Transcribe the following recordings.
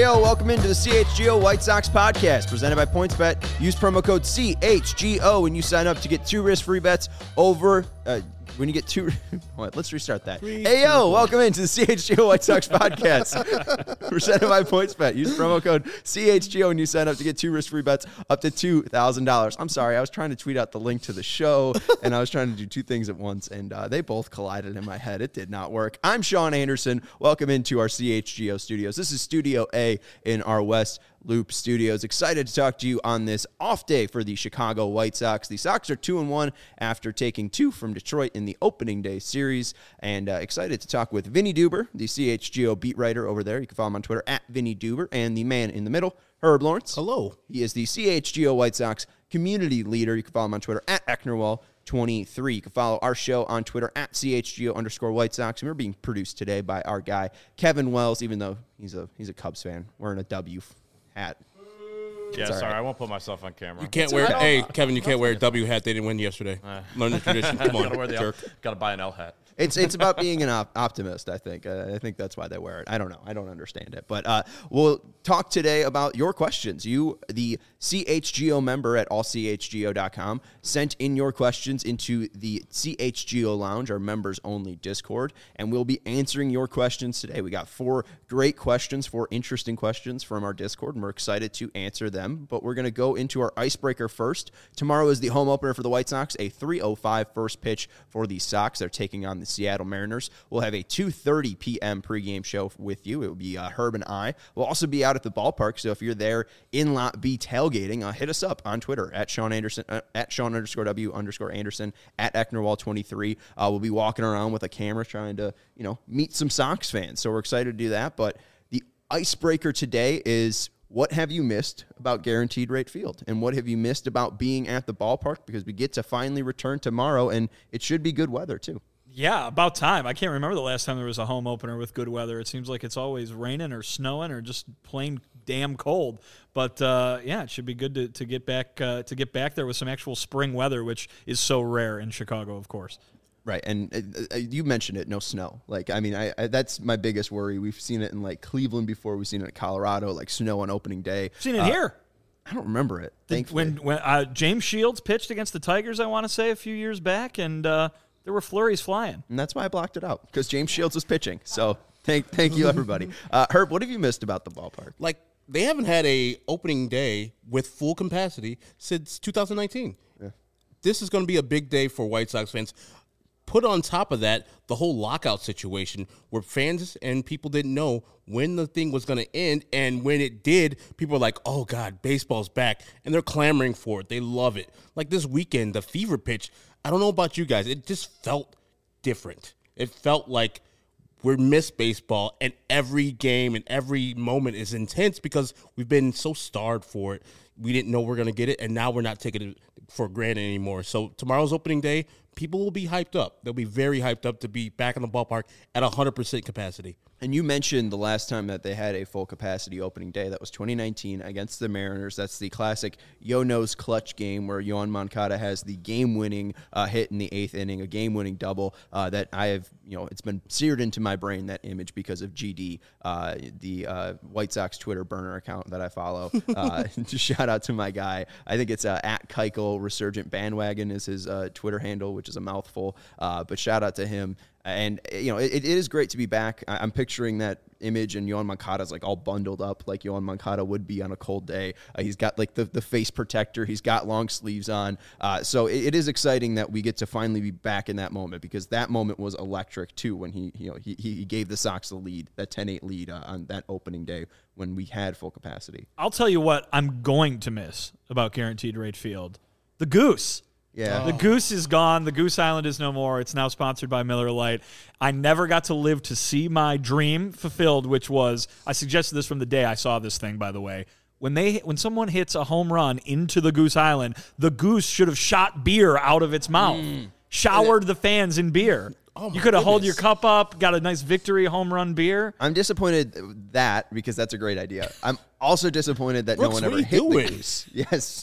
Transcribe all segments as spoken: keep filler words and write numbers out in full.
Heyo, welcome into the C H G O White Sox podcast presented by PointsBet. Use promo code C H G O when you sign up to get two risk-free bets over... Uh, when you get two... What? Let's restart that. Three, Heyo, two, welcome into the C H G O White Sox podcast presented by PointsBet. Use promo code C H G O when you sign up to get two risk-free bets up to two thousand dollars. I'm sorry, I was trying to tweet out the link to the show, and I was trying to do two things at once, and uh, they both collided in my head. It did not work. I'm Sean Anderson. Welcome into our C H G O studios. This is Studio A in our West Loop Studios. Excited to talk to you on this off day for the Chicago White Sox. The Sox are two and one after taking two from Detroit in the opening day series, and uh, excited to talk with Vinny Duber, the C H G O beat writer over there. You can follow him on Twitter at Vinny Duber, and the man in the middle, Herb Lawrence. Hello. He is the C H G O White Sox community leader. You can follow him on Twitter at Ecknerwall twenty-three. You can follow our show on Twitter at C H G O underscore White Sox. And we're being produced today by our guy, Kevin Wells, even though he's a he's a Cubs fan, wearing a W hat. Yeah, sorry, right. I won't put myself on camera. You can't wear. Hey, Kevin, you can't wear a W hat. They didn't win yesterday. Uh, Learn the tradition. Come on, gotta wear the jerk. L, gotta buy an L hat. It's it's about being an op- optimist, I think. Uh, I think that's why they wear it. I don't know. I don't understand it. But uh, we'll talk today about your questions. You, the C H G O member at all c h g o dot com, sent in your questions into the C H G O Lounge, our members-only Discord, and we'll be answering your questions today. We got four great questions, four interesting questions from our Discord, and we're excited to answer them. But we're going to go into our icebreaker first. Tomorrow is the home opener for the White Sox, a three oh five first pitch for the Sox. They're taking on the Seattle Mariners. We'll have a two thirty p.m. pregame show with you. It will be uh, Herb and I. We'll also be out at the ballpark, so if you're there in Lot B tailgating, uh, hit us up on Twitter at Sean Anderson, uh, at Sean underscore W underscore Anderson, at Ecknerwall twenty-three. Uh, we'll be walking around with a camera trying to, you know, meet some Sox fans, so we're excited to do that. But the icebreaker today is, what have you missed about Guaranteed Rate Field? And what have you missed about being at the ballpark? Because we get to finally return tomorrow, and it should be good weather, too. Yeah, about time. I can't remember the last time there was a home opener with good weather. It seems like it's always raining or snowing or just plain damn cold. But uh, yeah, it should be good to, to get back uh, to get back there with some actual spring weather, which is so rare in Chicago, of course. Right, and uh, you mentioned it, no snow. Like, I mean, I, I that's my biggest worry. We've seen it in, like, Cleveland before. We've seen it in Colorado, like, snow on opening day. Seen it uh, here. I don't remember it, thankfully. When, when uh, James Shields pitched against the Tigers, I want to say, a few years back, and uh, there were flurries flying. And that's why I blocked it out, because James Shields was pitching. So thank thank you, everybody. Uh, Herb, what have you missed about the ballpark? Like, they haven't had a opening day with full capacity since two thousand nineteen. Yeah. This is going to be a big day for White Sox fans. Put on top of that the whole lockout situation where fans and people didn't know when the thing was going to end, and when it did, people were like, oh, God, baseball's back, and they're clamoring for it. They love it. Like this weekend, the fever pitch, I don't know about you guys, it just felt different. It felt like we missed baseball, and every game and every moment is intense because we've been so starved for it. We didn't know we we're going to get it, and now we're not taking it for granted anymore. So tomorrow's opening day, people will be hyped up. They'll be very hyped up to be back in the ballpark at one hundred percent capacity. And you mentioned the last time that they had a full capacity opening day. That was twenty nineteen against the Mariners. That's the classic Yo-No's clutch game where Yoan Moncada has the game-winning uh, hit in the eighth inning, a game-winning double uh, that I have, you know, it's been seared into my brain, that image, because of G D, uh, the uh, White Sox Twitter burner account that I follow. Uh, just shout out to my guy. I think it's uh, at Keuchel Resurgent Bandwagon is his uh, Twitter handle, which is a mouthful. Uh, but shout out to him. And, you know, it, it is great to be back. I, I'm picturing that image, and Yoan Moncada's, like, all bundled up like Yoan Moncada would be on a cold day. Uh, he's got, like, the, the face protector. He's got long sleeves on. Uh, so it, it is exciting that we get to finally be back in that moment, because that moment was electric, too, when he, you know, he, he gave the Sox the lead, that ten eight lead uh, on that opening day when we had full capacity. I'll tell you what I'm going to miss about Guaranteed Rate Field. The Goose. Yeah. The Goose is gone. The Goose Island is no more. It's now sponsored by Miller Lite. I never got to live to see my dream fulfilled, which was, I suggested this from the day I saw this thing, by the way. When they when someone hits a home run into the Goose Island, the Goose should have shot beer out of its mouth, mm. showered the fans in beer. Oh you could have held your goodness. cup up, got a nice victory home run beer. I'm disappointed that, because that's a great idea. I'm also disappointed that Brooks, no one what ever are you hit doing? the Goose. Yes.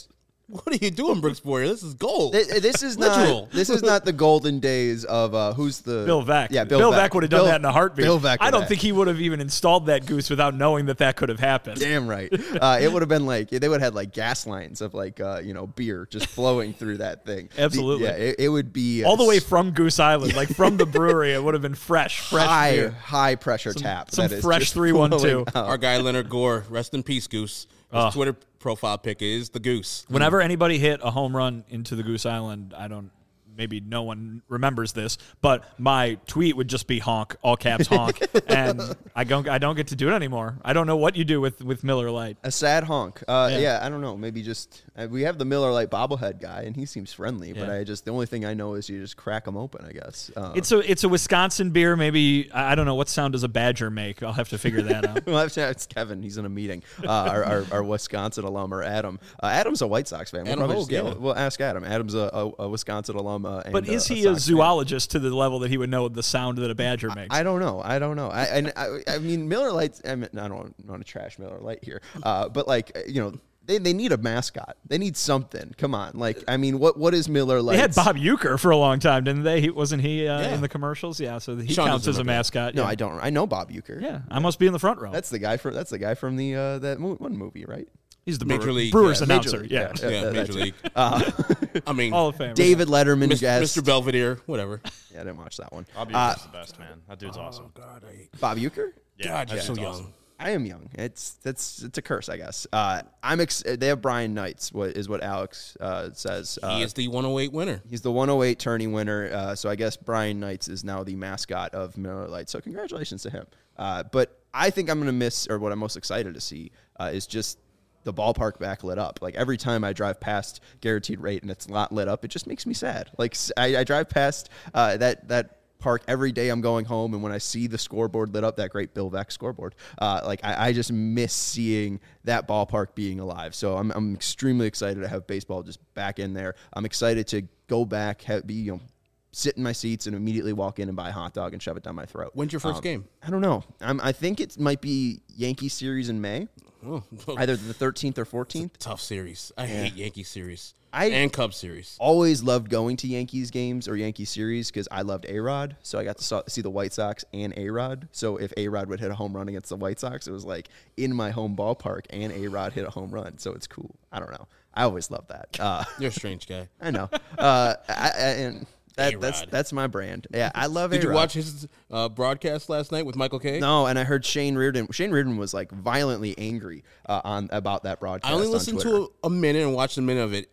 What are you doing, Brooks Boyer? This is gold. Th- This is Literal. not. This is not the golden days of uh, who's the Bill Veck. Yeah, Bill, Bill Veck. Veck would have done Bill- that in a heartbeat. Bill Veck. I would don't have. think he would have even installed that goose without knowing that that could have happened. Damn right. Uh, it would have been like they would have had like gas lines of like uh, you know beer just flowing through that thing. The- Absolutely. yeah, it, it would be uh, All the way from Goose Island, like from the brewery, it would have been fresh, fresh high beer. high pressure tap. some that is fresh just three one two. flowing out. Our guy Leonard Gore, rest in peace, Goose. His Oh. Twitter profile pic is the Goose. Whenever anybody hit a home run into the Goose Island, I don't. Maybe no one remembers this, but my tweet would just be honk, all caps honk, and I don't. I don't get to do it anymore. I don't know what you do with, with Miller Lite. A sad honk. Uh, yeah. Yeah. I don't know. Maybe just uh, we have the Miller Lite bobblehead guy, and he seems friendly. But Yeah. I just the only thing I know is you just crack them open. I guess uh, It's a it's a Wisconsin beer. Maybe I I don't know what sound does a badger make. I'll have to figure that out. Well, it's it's Kevin. He's in a meeting. Uh, our, our our Wisconsin alum, or Adam. Uh, Adam's a White Sox fan. We'll Adam probably Hogue, just- yeah. We'll ask Adam. Adam's a, a, a Wisconsin alum. Uh, and, But is uh, he a Sox fan. zoologist to the level that he would know the sound that a badger makes? I don't know. I don't know. I and I, I mean Miller Lite. I mean, I don't want to trash Miller Lite here, uh, but like you know. They, they need a mascot. They need something. Come on, like I mean, what what is Miller Lite? They had Bob Euchre for a long time, didn't they? He, wasn't he uh, Yeah. in the commercials? Yeah, so he Sean counts doesn't as a remember that. mascot. No, yeah. I don't. I know Bob Euchre. Yeah, I must be in the front row. That's the guy from that's the guy from the uh, that mo- one movie, right? He's the Major Brewer- League, Brewers yeah. announcer. League, yeah, yeah. Yeah, that- Major that's- League. Uh, I mean, Hall of Fame. David Letterman Mis- guest. Mister Belvedere, whatever. Yeah, I didn't watch that one. Bob Uh, Euchre's the best, man. That dude's awesome. God, I, Bob Euchre? Yeah, God, that you're so dude's young. awesome. I am young. It's that's it's a curse, I guess. Uh, I'm ex- they have Brian Knights. What is what Alex uh, says? Uh, He is the one oh eight winner. He's the one oh eight tourney winner. Uh, so I guess Brian Knights is now the mascot of Miller Lite. So congratulations to him. Uh, but I think I'm going to miss, or what I'm most excited to see, uh, is just the ballpark back lit up. Like every time I drive past Guaranteed Rate and it's not lit up, it just makes me sad. Like s- I, I drive past uh, that that. park every day I'm going home, and when I see the scoreboard lit up, that great Bill Veck scoreboard, uh, like I, I just miss seeing that ballpark being alive. So I'm, I'm extremely excited to have baseball just back in there. I'm excited to go back, have, be you know, sit in my seats and immediately walk in and buy a hot dog and shove it down my throat. When's your first Um, game? I don't know. I'm, I think it might be Yankee series in May, Oh, either the thirteenth or fourteenth. tough series. I hate Yankee series. I- and Cubs series. Always loved going to Yankees games or Yankee series because I loved A-Rod. So I got to saw, see the White Sox and A-Rod. So if A-Rod would hit a home run against the White Sox, it was like in my home ballpark and A-Rod hit a home run. So it's cool. I don't know. I always loved that. Uh, You're a strange guy. I know. Uh, I, I, and that, that's A-Rod. that's my brand. Yeah, I love Did A-Rod. you watch his uh, broadcast last night with Michael Kay? No, and I heard Shane Reardon. Shane Reardon was like violently angry uh, on about that broadcast. I only on listened Twitter. to a, a minute and watched a minute of it.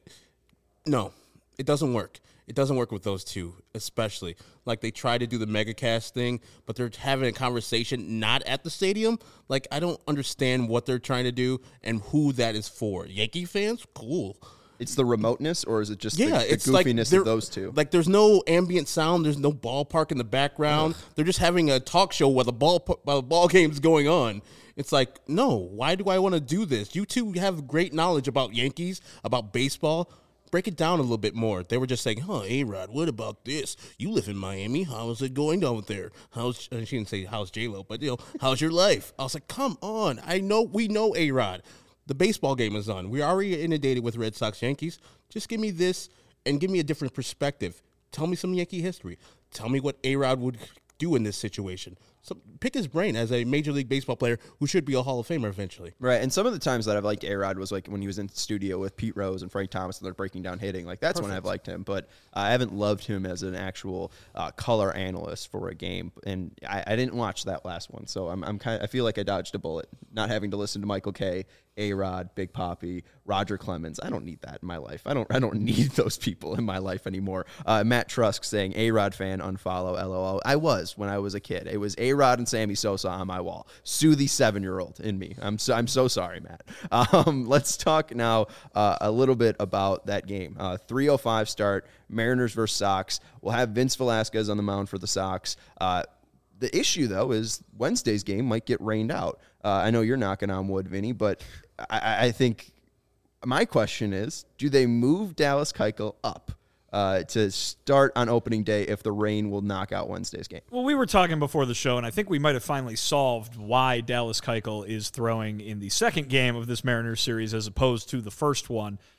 No, it doesn't work. It doesn't work with those two, especially. Like, they try to do the megacast thing, but they're having a conversation not at the stadium. Like, I don't understand what they're trying to do and who that is for. Yankee fans? Cool. It's the remoteness, or is it just Yeah, the, the it's like goofiness they're- of those two? Like, there's no ambient sound. There's no ballpark in the background. They're just having a talk show while the ball while the ball game's going on. It's like, no, why do I want to do this? You two have great knowledge about Yankees, about baseball. Break it down a little bit more. They were just saying, huh, A-Rod, what about this? You live in Miami. How's it going down there? How's, uh, she didn't say, how's J-Lo, but, you know, how's your life? I was like, come on. I know, we know A-Rod. The baseball game is on. We're already inundated with Red Sox Yankees. Just give me this and give me a different perspective. Tell me some Yankee history. Tell me what A-Rod would do in this situation. So pick his brain as a Major League Baseball player who should be a Hall of Famer eventually. Right, and some of the times that I've liked A-Rod was like when he was in studio with Pete Rose and Frank Thomas and they're breaking down hitting. Like that's when I've liked him, but uh, I haven't loved him as an actual uh, color analyst for a game. And I, I didn't watch that last one, so I'm, I'm kind. I feel like I dodged a bullet, not having to listen to Michael Kay, A-Rod, Big Papi, Roger Clemens. I don't need that in my life. I don't. I don't need those people in my life anymore. Uh, Matt Trusk saying A-Rod fan unfollow. L O L. I was when I was a kid. It was A-Rod and Sammy Sosa on my wall. Sue the seven-year-old in me. I'm so, I'm so sorry, Matt. Um, let's talk now uh, a little bit about that game. Uh, three oh five start, Mariners versus Sox. We'll have Vince Velasquez on the mound for the Sox. Uh, the issue, though, is Wednesday's game might get rained out. Uh, I know you're knocking on wood, Vinny, but I, I think my question is, do they move Dallas Keuchel up Uh, to start on opening day if the rain will knock out Wednesday's game? Well, we were talking before the show, and I think we might have finally solved why Dallas Keuchel is throwing in the second game of this Mariners series as opposed to the first one.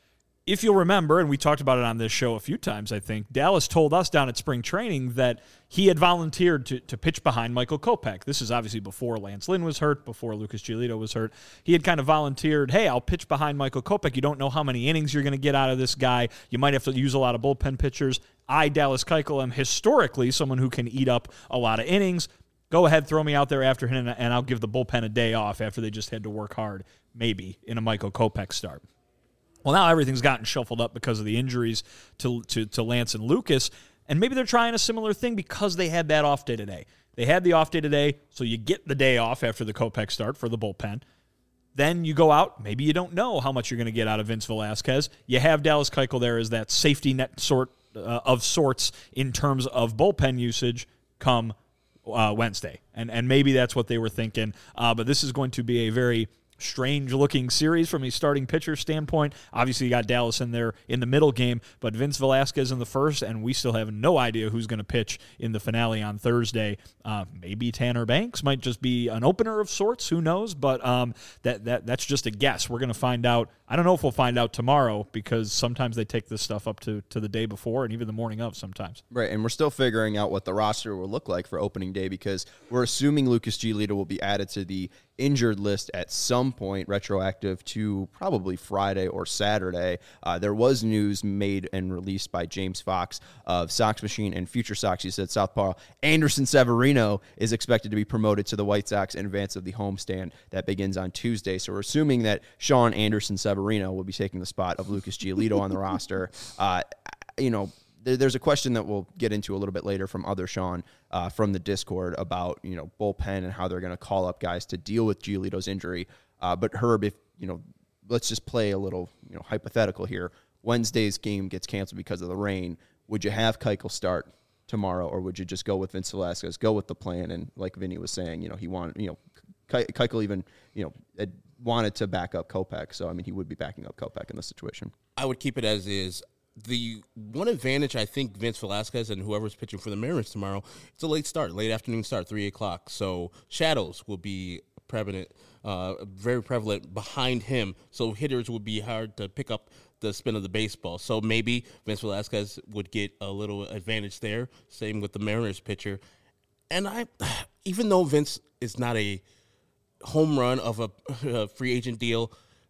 if you'll remember, and we talked about it on this show a few times, I think, Dallas told us down at spring training that he had volunteered to, to pitch behind Michael Kopech. This is obviously before Lance Lynn was hurt, before Lucas Giolito was hurt. He had kind of volunteered, hey, I'll pitch behind Michael Kopech. You don't know how many innings you're going to get out of this guy. You might have to use a lot of bullpen pitchers. I, Dallas Keuchel, am historically someone who can eat up a lot of innings. Go ahead, throw me out there after him, and I'll give the bullpen a day off after they just had to work hard, maybe, in a Michael Kopech start. Well, now everything's gotten shuffled up because of the injuries to, to, to Lance and Lucas, and maybe they're trying a similar thing because they had that off day today. They had the off day today, so you get the day off after the Kopech start for the bullpen. Then you go out, maybe you don't know how much you're going to get out of Vince Velasquez. You have Dallas Keuchel there as that safety net sort uh, of sorts in terms of bullpen usage come uh, Wednesday. And, and maybe that's what they were thinking, uh, but this is going to be a very strange-looking series from a starting pitcher standpoint. Obviously, you got Dallas in there in the middle game, but Vince Velasquez in the first, and we still have no idea who's going to pitch in the finale on Thursday. Uh, maybe Tanner Banks might just be an opener of sorts. Who knows? But um, that that that's just a guess. We're going to find out. I don't know if we'll find out tomorrow because sometimes they take this stuff up to, to the day before and even the morning of sometimes. Right, and we're still figuring out what the roster will look like for opening day because we're assuming Lucas Giolito will be added to the injured list at some point, retroactive to probably Friday or Saturday. Uh, there was news made and released by James Fox of Sox Machine and Future Sox. He said Southpaw Anderson Severino is expected to be promoted to the White Sox in advance of the homestand that begins on Tuesday. So we're assuming that Sean Anderson Severino will be taking the spot of Lucas Giolito on the roster. Uh, you know, there's a question that we'll get into a little bit later from other Sean uh, from the Discord about, you know, bullpen and how they're going to call up guys to deal with Giolito's injury. Uh, but Herb, if, you know, let's just play a little, you know, hypothetical here. Wednesday's game gets canceled because of the rain. Would you have Keuchel start tomorrow, or would you just go with Vince Velasquez, go with the plan? And like Vinny was saying, you know, he wanted, you know, Ke- Keuchel even, you know, had wanted to back up Kopech. So, I mean, he would be backing up Kopech in this situation. I would keep it as is. The one advantage I think Vince Velasquez and whoever's pitching for the Mariners tomorrow, it's a late start, late afternoon start, three o'clock. So shadows will be prevalent, uh, very prevalent behind him. So hitters would be hard to pick up the spin of the baseball. So maybe Vince Velasquez would get a little advantage there. Same with the Mariners pitcher. And I, even though Vince is not a home run of a, a free agent deal,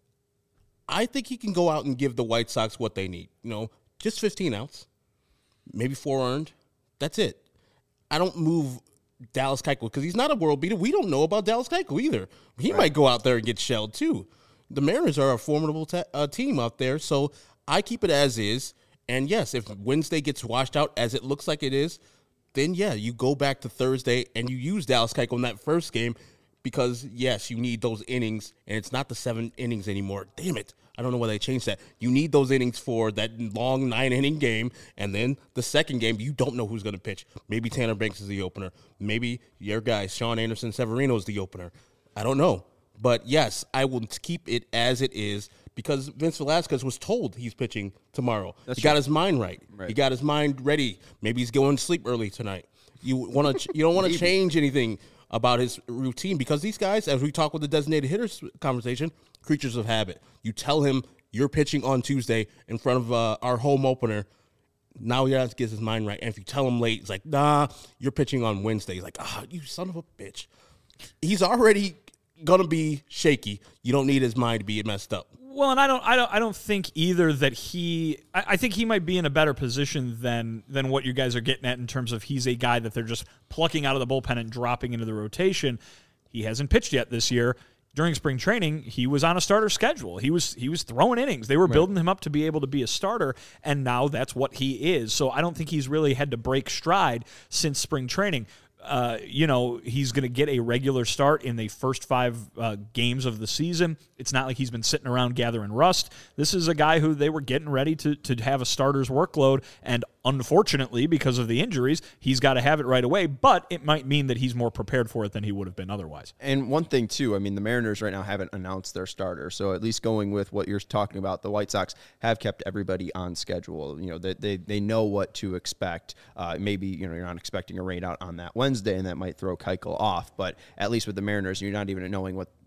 I think he can go out and give the White Sox what they need. You know, just fifteen outs, maybe four earned. That's it. I don't move Dallas Keuchel because he's not a world beater. We don't know about Dallas Keuchel either. He right. might go out there and get shelled too. The Mariners are a formidable te- uh, team out there, so I keep it as is. And yes, if Wednesday gets washed out as it looks like it is, then yeah, you go back to Thursday and you use Dallas Keuchel in that first game. Because, yes, you need those innings, and it's not the seven innings anymore. Damn it. I don't know why they changed that. You need those innings for that long nine-inning game, and then the second game, you don't know who's going to pitch. Maybe Tanner Banks is the opener. Maybe your guy, Sean Anderson Severino, is the opener. I don't know. But, yes, I will keep it as it is because Vince Velasquez was told he's pitching tomorrow. That's he true. Got his mind right. right. He got his mind ready. Maybe he's going to sleep early tonight. You want to? You don't want to change anything about his routine because these guys, as we talk with the designated hitters conversation, creatures of habit. You tell him you're pitching on Tuesday in front of uh, our home opener. Now he has to get his mind right. And if you tell him late, it's like, nah, you're pitching on Wednesday. He's like, ah, oh, you son of a bitch. He's already going to be shaky. You don't need his mind to be messed up. Well, and I don't, I don't, I don't think either that he. I, I think he might be in a better position than than what you guys are getting at in terms of he's a guy that they're just plucking out of the bullpen and dropping into the rotation. He hasn't pitched yet this year. During spring training, he was on a starter schedule. He was he was throwing innings. They were right. building him up to be able to be a starter, and now that's what he is. So I don't think he's really had to break stride since spring training. Uh, you know, he's going to get a regular start in the first five uh, games of the season. It's not like he's been sitting around gathering rust. This is a guy who they were getting ready to to have a starter's workload, and unfortunately, because of the injuries, he's got to have it right away, but it might mean that he's more prepared for it than he would have been otherwise. And one thing, too, I mean, the Mariners right now haven't announced their starter, so at least going with what you're talking about, the White Sox have kept everybody on schedule. You know, they they, they know what to expect. Uh, maybe, you know, you're not expecting a rain out on that Wednesday, and that might throw Keuchel off, but at least with the Mariners, you're not even knowing what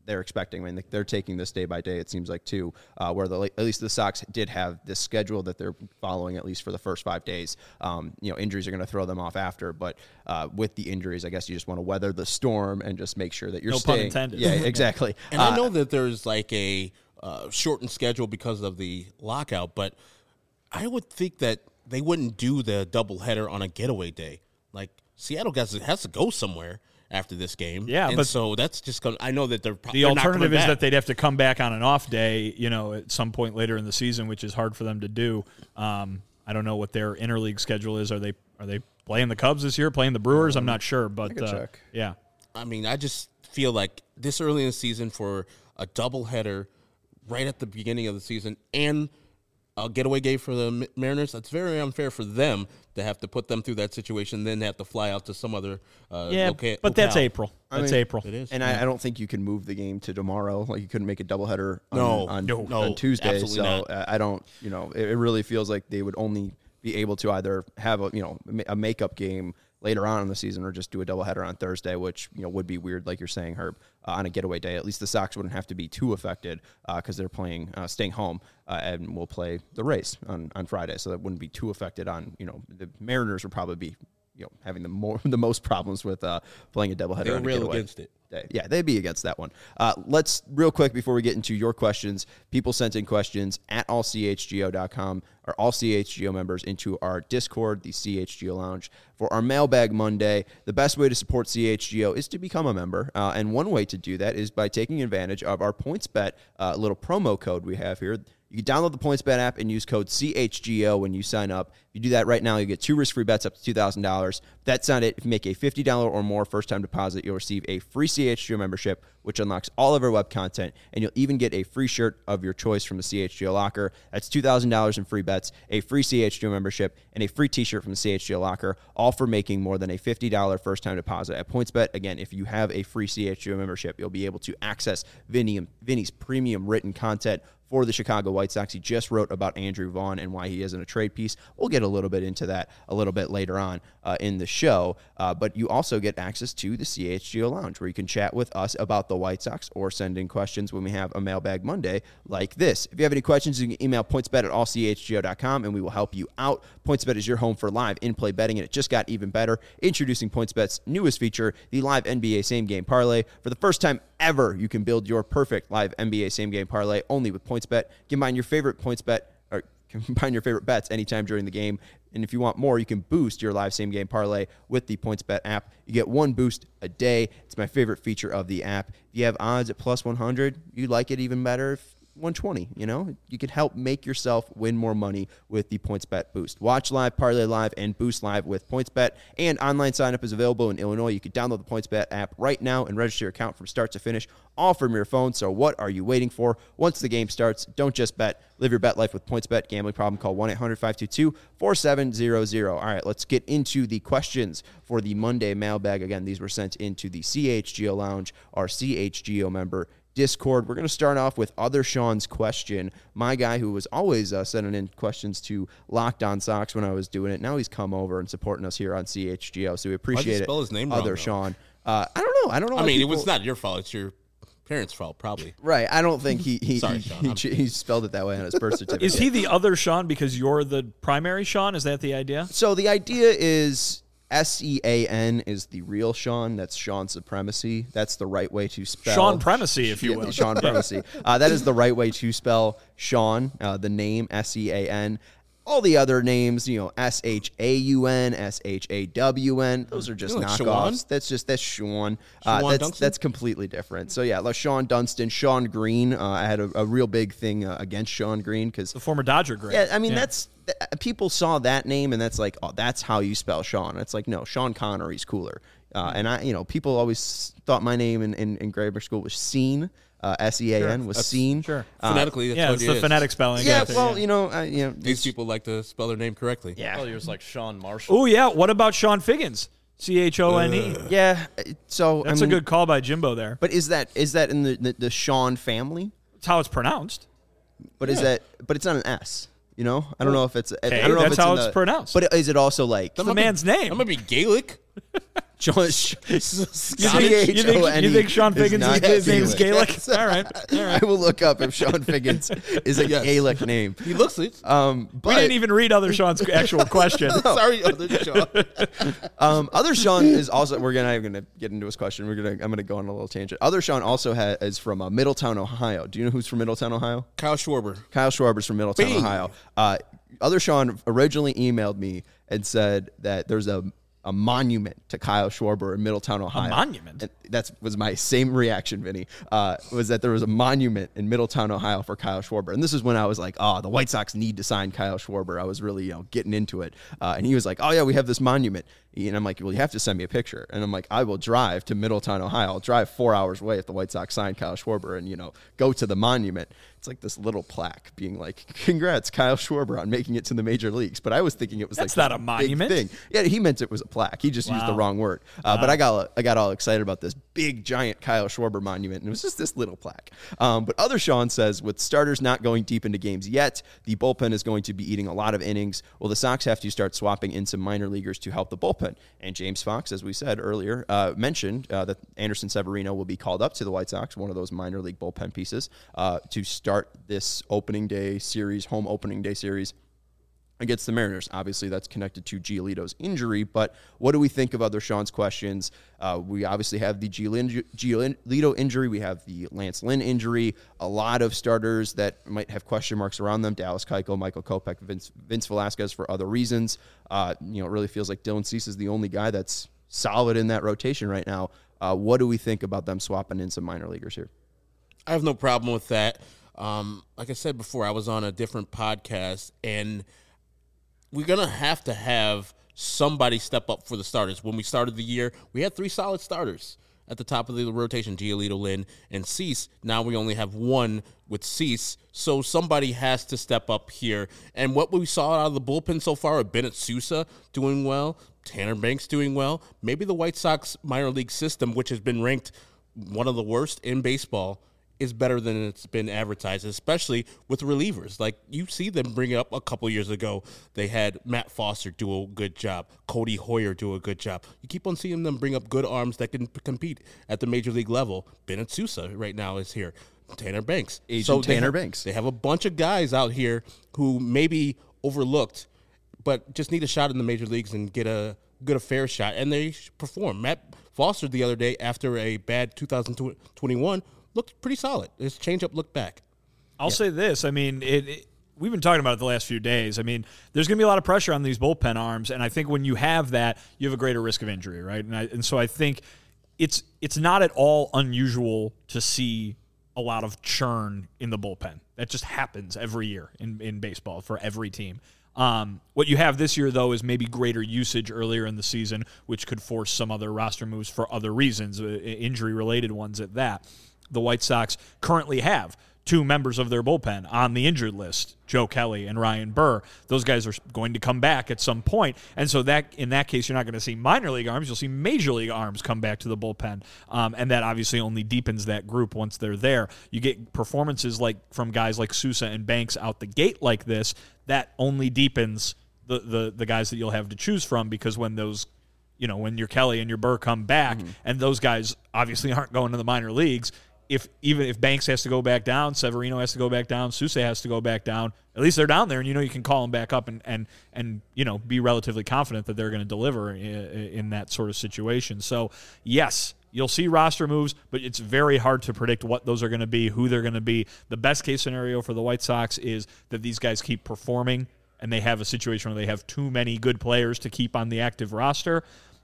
they're expecting. I mean, they're taking this day by day, it seems like, too, uh, where the, at least the Sox did have this schedule that they're following, at least for the first five days. Um, you know, injuries are going to throw them off after, but uh, with the injuries, I guess you just want to weather the storm and just make sure that you're No staying. pun intended. Yeah, exactly. And uh, I know that there's like a uh, shortened schedule because of the lockout, but I would think that they wouldn't do the doubleheader on a getaway day. Like, Seattle has to, has to go somewhere after this game. Yeah, and but so that's just going to, I know that they're pro- The they're not alternative coming is back. that they'd have to come back on an off day, you know, at some point later in the season, which is hard for them to do. Um, I don't know what their interleague schedule is. Are they are they playing the Cubs this year, playing the Brewers? I'm not sure, but could uh, check. yeah. I mean, I just feel like this early in the season for a doubleheader right at the beginning of the season and a getaway game for the Ma- Mariners, that's very unfair for them to have to put them through that situation, then have to fly out to some other uh, Yeah, loca- but that's locale. April. I That's mean, April. It is. And I, I don't think you can move the game to tomorrow. Like, you couldn't make a doubleheader on, No, on, no, no, on Tuesday. absolutely So not. uh, I don't, you know, it, it really feels like they would only be able to either have a, you know, ma- a makeup game later on in the season or just do a doubleheader on Thursday, which, you know, would be weird, like you're saying, Herb, uh, on a getaway day. At least the Sox wouldn't have to be too affected because uh, they're playing, uh, staying home, uh, and we'll play the Rays on, on Friday. So that wouldn't be too affected on, you know, the Mariners would probably be, you know, having the more the most problems with uh, playing a doubleheader. They'll on a rail getaway against it. day. Yeah, they'd be against that one. Uh, let's real quick before we get into your questions. People sent in questions at all c h g o dot com or all C H G O members into our Discord, the C H G O Lounge, for our Mailbag Monday. The best way to support C H G O is to become a member, uh, and one way to do that is by taking advantage of our PointsBet uh, little promo code we have here. You can download the PointsBet app and use code C H G O when you sign up. If you do that right now, you get two risk-free bets up to two thousand dollars. That's not it. If you make a fifty dollars or more first-time deposit, you'll receive a free C H G O membership, which unlocks all of our web content, and you'll even get a free shirt of your choice from the C H G O Locker. That's two thousand dollars in free bets, a free C H G O membership, and a free t-shirt from the C H G O Locker, all for making more than a fifty dollars first-time deposit at PointsBet. Again, if you have a free C H G O membership, you'll be able to access Vinny, Vinny's premium written content for the Chicago White Sox. He just wrote about Andrew Vaughn and why he isn't a trade piece. We'll get a little bit into that a little bit later on uh, in the show. Uh, but you also get access to the C H G O Lounge, where you can chat with us about the White Sox or send in questions when we have a Mailbag Monday like this. If you have any questions, you can email pointsbet at all c h g o dot com, and we will help you out. PointsBet is your home for live in-play betting, and it just got even better. Introducing PointsBet's newest feature, the live N B A same-game parlay. For the first time ever, you can build your perfect live N B A same-game parlay only with PointsBet. Combine your favorite PointsBet or combine your favorite bets anytime during the game. And if you want more, you can boost your live same-game parlay with the PointsBet app. You get one boost a day. It's my favorite feature of the app. If you have odds at plus one hundred, you like it even better if one twenty, you know? You can help make yourself win more money with the PointsBet Boost. Watch live, parlay live, and boost live with PointsBet. And online sign-up is available in Illinois. You can download the PointsBet app right now and register your account from start to finish, all from your phone. So what are you waiting for? Once the game starts, don't just bet. Live your bet life with PointsBet. Gambling problem, call one eight hundred five two two four seven zero zero. All right, let's get into the questions for the Monday mailbag. Again, these were sent into the C H G O Lounge, our C H G O member Discord. We're going to start off with Other Sean's question. My guy who was always uh, sending in questions to Locked On Sox when I was doing it. Now he's come over and supporting us here on C H G O, so we appreciate it. spell his name wrong, Other though? Sean. Uh, I don't know. I don't know. I why mean, people- it was not your fault. It's your parents' fault, probably. right. I don't think he he, Sorry, he, Sean. he, I'm- he spelled it that way on his birth certificate. Is he the other Sean because you're the primary Sean? Is that the idea? So the idea is S E A N is the real Sean. That's Sean Supremacy. That's the right way to spell Sean Primacy, if you Yeah, will. Sean Primacy. Uh, that is the right way to spell Sean, uh, the name S E A N. All the other names, you know, S H A U N, S H A W N, those are just You know, like knockoffs. Shawan? That's just, that's Sean. Uh, Shawan that's, Dunston? that's completely different. So, yeah, like Sean Dunston, Sean Green. Uh, I had a, a real big thing uh, against Sean Green because The former Dodger great. yeah, I mean, that's th- people saw that name and that's like, oh, that's how you spell Sean. It's like, no, Sean Connery's cooler. Uh, and I, you know, people always thought my name in, in, in grammar school was Scene. Uh, S E A N was Scene. Sure. Uh, Phonetically, that's yeah, what it's it the is. phonetic spelling. yeah, Got it, well, you know, I, you know, These people like to spell their name correctly. yeah, Oh, yours like Sean Marshall. Oh, yeah. What about Sean Figgins? C H O N E. yeah. So That's I mean, a good call by Jimbo there. But is that is that in the the, the Sean family? That's how it's pronounced. But is that? But it's not an S. You know, I don't know if it's. I Okay, don't know that's if it's how in it's the- pronounced. But is it also like The man's name. That might be Gaelic. Sean, You think, you, think, you think Sean is Figgins' not his name's Gaelic. Gaelic? All right. All right. I will look up if Sean Figgins is a Yes. Gaelic name. He looks it. Um, but We didn't even read other Sean's actual question. Sorry, other Sean. um, other Sean is also. We're gonna I'm gonna get into his question. We're gonna I'm gonna go on a little tangent. Other Sean also ha- is from uh, Middletown, Ohio. Do you know who's from Middletown, Ohio? Kyle Schwarber. Kyle Schwarber's from Middletown, Bing. Ohio. Uh, other Sean originally emailed me and said that there's a a monument to Kyle Schwarber in Middletown, Ohio. monument? And that was my same reaction, Vinny, uh, was that there was a monument in Middletown, Ohio for Kyle Schwarber. And this is when I was like, oh, the White Sox need to sign Kyle Schwarber. I was really, you know, getting into it. Uh, and he was like, oh, yeah, we have this monument. And I'm like, well, you have to send me a picture. And I'm like, I will drive to Middletown, Ohio. I'll drive four hours away if the White Sox sign Kyle Schwarber and, you know, go to the monument. It's like this little plaque being like, congrats, Kyle Schwarber, on making it to the major leagues. But I was thinking it was That's like not a big monument. thing. Yeah, he meant it was a plaque. He just used the Wow. wrong word. Uh, But I got I got all excited about this big, giant Kyle Schwarber monument, and it was just this little plaque. Um, but other Sean says, with starters not going deep into games yet, the bullpen is going to be eating a lot of innings. Well, the Sox have to start swapping in some minor leaguers to help the bullpen. And James Fox, as we said earlier, uh, mentioned uh, that Anderson Severino will be called up to the White Sox, one of those minor league bullpen pieces, uh, to start this opening day series, home opening day series against the Mariners. Obviously, that's connected to Giolito's injury, but what do we think of other Sean's questions? Uh, we obviously have the Giolito injury. We have the Lance Lynn injury. A lot of starters that might have question marks around them. Dallas Keuchel, Michael Kopech, Vince, Vince Velasquez for other reasons. Uh, you know, it really feels like Dylan Cease is the only guy that's solid in that rotation right now. Uh, what do we think about them swapping in some minor leaguers here? I have no problem with that. Um, like I said before, I was on a different podcast, and we're going to have to have somebody step up for the starters. When we started the year, we had three solid starters at the top of the rotation, Giolito, Lynn, and Cease. Now we only have one with Cease, so somebody has to step up here. And what we saw out of the bullpen so far, with Bennett Sousa doing well, Tanner Banks doing well, maybe the White Sox minor league system, which has been ranked one of the worst in baseball, is better than it's been advertised, especially with relievers. Like, you see them bring it up a couple years ago. They had Matt Foster do a good job. Cody Hoyer do a good job. You keep on seeing them bring up good arms that can p- compete at the major league level. Bennett Sousa right now is here. Tanner Banks. Agent they Tanner have- Banks. They have a bunch of guys out here who may be overlooked, but just need a shot in the major leagues and get a get a fair shot, and they perform. Matt Foster the other day, after a bad two thousand twenty-one, looked pretty solid. His changeup looked back. I'll say this. I mean, it, it, we've been talking about it the last few days. I mean, there's going to be a lot of pressure on these bullpen arms, and I think when you have that, you have a greater risk of injury, right? And, I, and so I think it's it's not at all unusual to see a lot of churn in the bullpen. That just happens every year in, in baseball for every team. Um, what you have this year, though, is maybe greater usage earlier in the season, which could force some other roster moves for other reasons, uh, injury-related ones at that. The White Sox currently have two members of their bullpen on the injured list, Joe Kelly and Ryan Burr. Those guys are going to come back at some point. And so that in that case, you're not going to see minor league arms. You'll see major league arms come back to the bullpen. Um, and that obviously only deepens that group once they're there. You get performances like from guys like Sousa and Banks out the gate like this, that only deepens the, the, the guys that you'll have to choose from, because when those you know, when your Kelly and your Burr come back, mm-hmm. and those guys obviously aren't going to the minor leagues, if even if Banks has to go back down, Severino has to go back down, Sousa has to go back down, at least they're down there, and you know you can call them back up and and and you know be relatively confident that they're going to deliver in, in that sort of situation. So yes, you'll see roster moves, but it's very hard to predict what those are going to be, who they're going to be. The best case scenario for the White Sox is that these guys keep performing, and they have a situation where they have too many good players to keep on the active roster.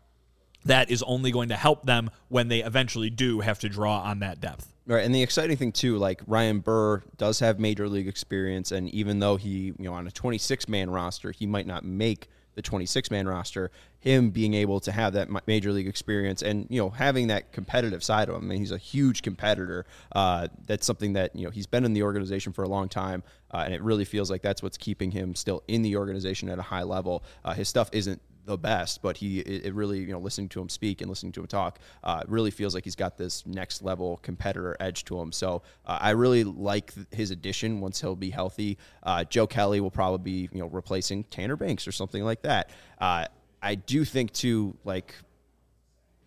That is only going to help them when they eventually do have to draw on that depth. Right, and the exciting thing too, like Ryan Burr does have major league experience, and even though he, you know, on a twenty-six man roster, he might not make the twenty-six man roster. Him being able to have that major league experience and, you know, having that competitive side of him. I mean, he's a huge competitor. Uh, that's something that, you know, he's been in the organization for a long time, uh, and it really feels like that's what's keeping him still in the organization at a high level. Uh, his stuff isn't the best, but he it, it really, you know, listening to him speak and listening to him talk, uh, really feels like he's got this next level competitor edge to him. So uh, I really like th- his addition once he'll be healthy. Uh, Joe Kelly will probably be, you know, replacing Tanner Banks or something like that. Uh, I do think too, like,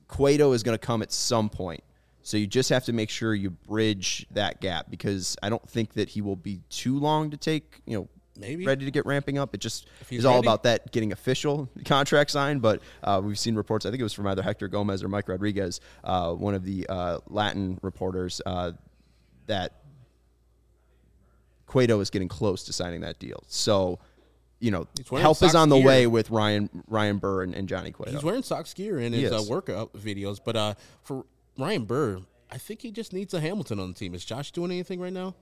Cueto is going to come at some point. So you just have to make sure you bridge that gap because I don't think that he will be too long to take, you know, Maybe. ready to get ramping up. It just he's is all ready. about that getting official contract signed. But uh, we've seen reports, I think it was from either Hector Gomez or Mike Rodriguez, uh, one of the uh, Latin reporters, uh, that Cueto is getting close to signing that deal. So, you know, wearing help is Sox on the gear. way with Ryan Ryan Burr and, and Johnny Cueto. He's wearing Sox gear in He his uh, is. workout videos. But uh, for Ryan Burr, I think he just needs a Hamilton on the team. Is Josh doing anything right now?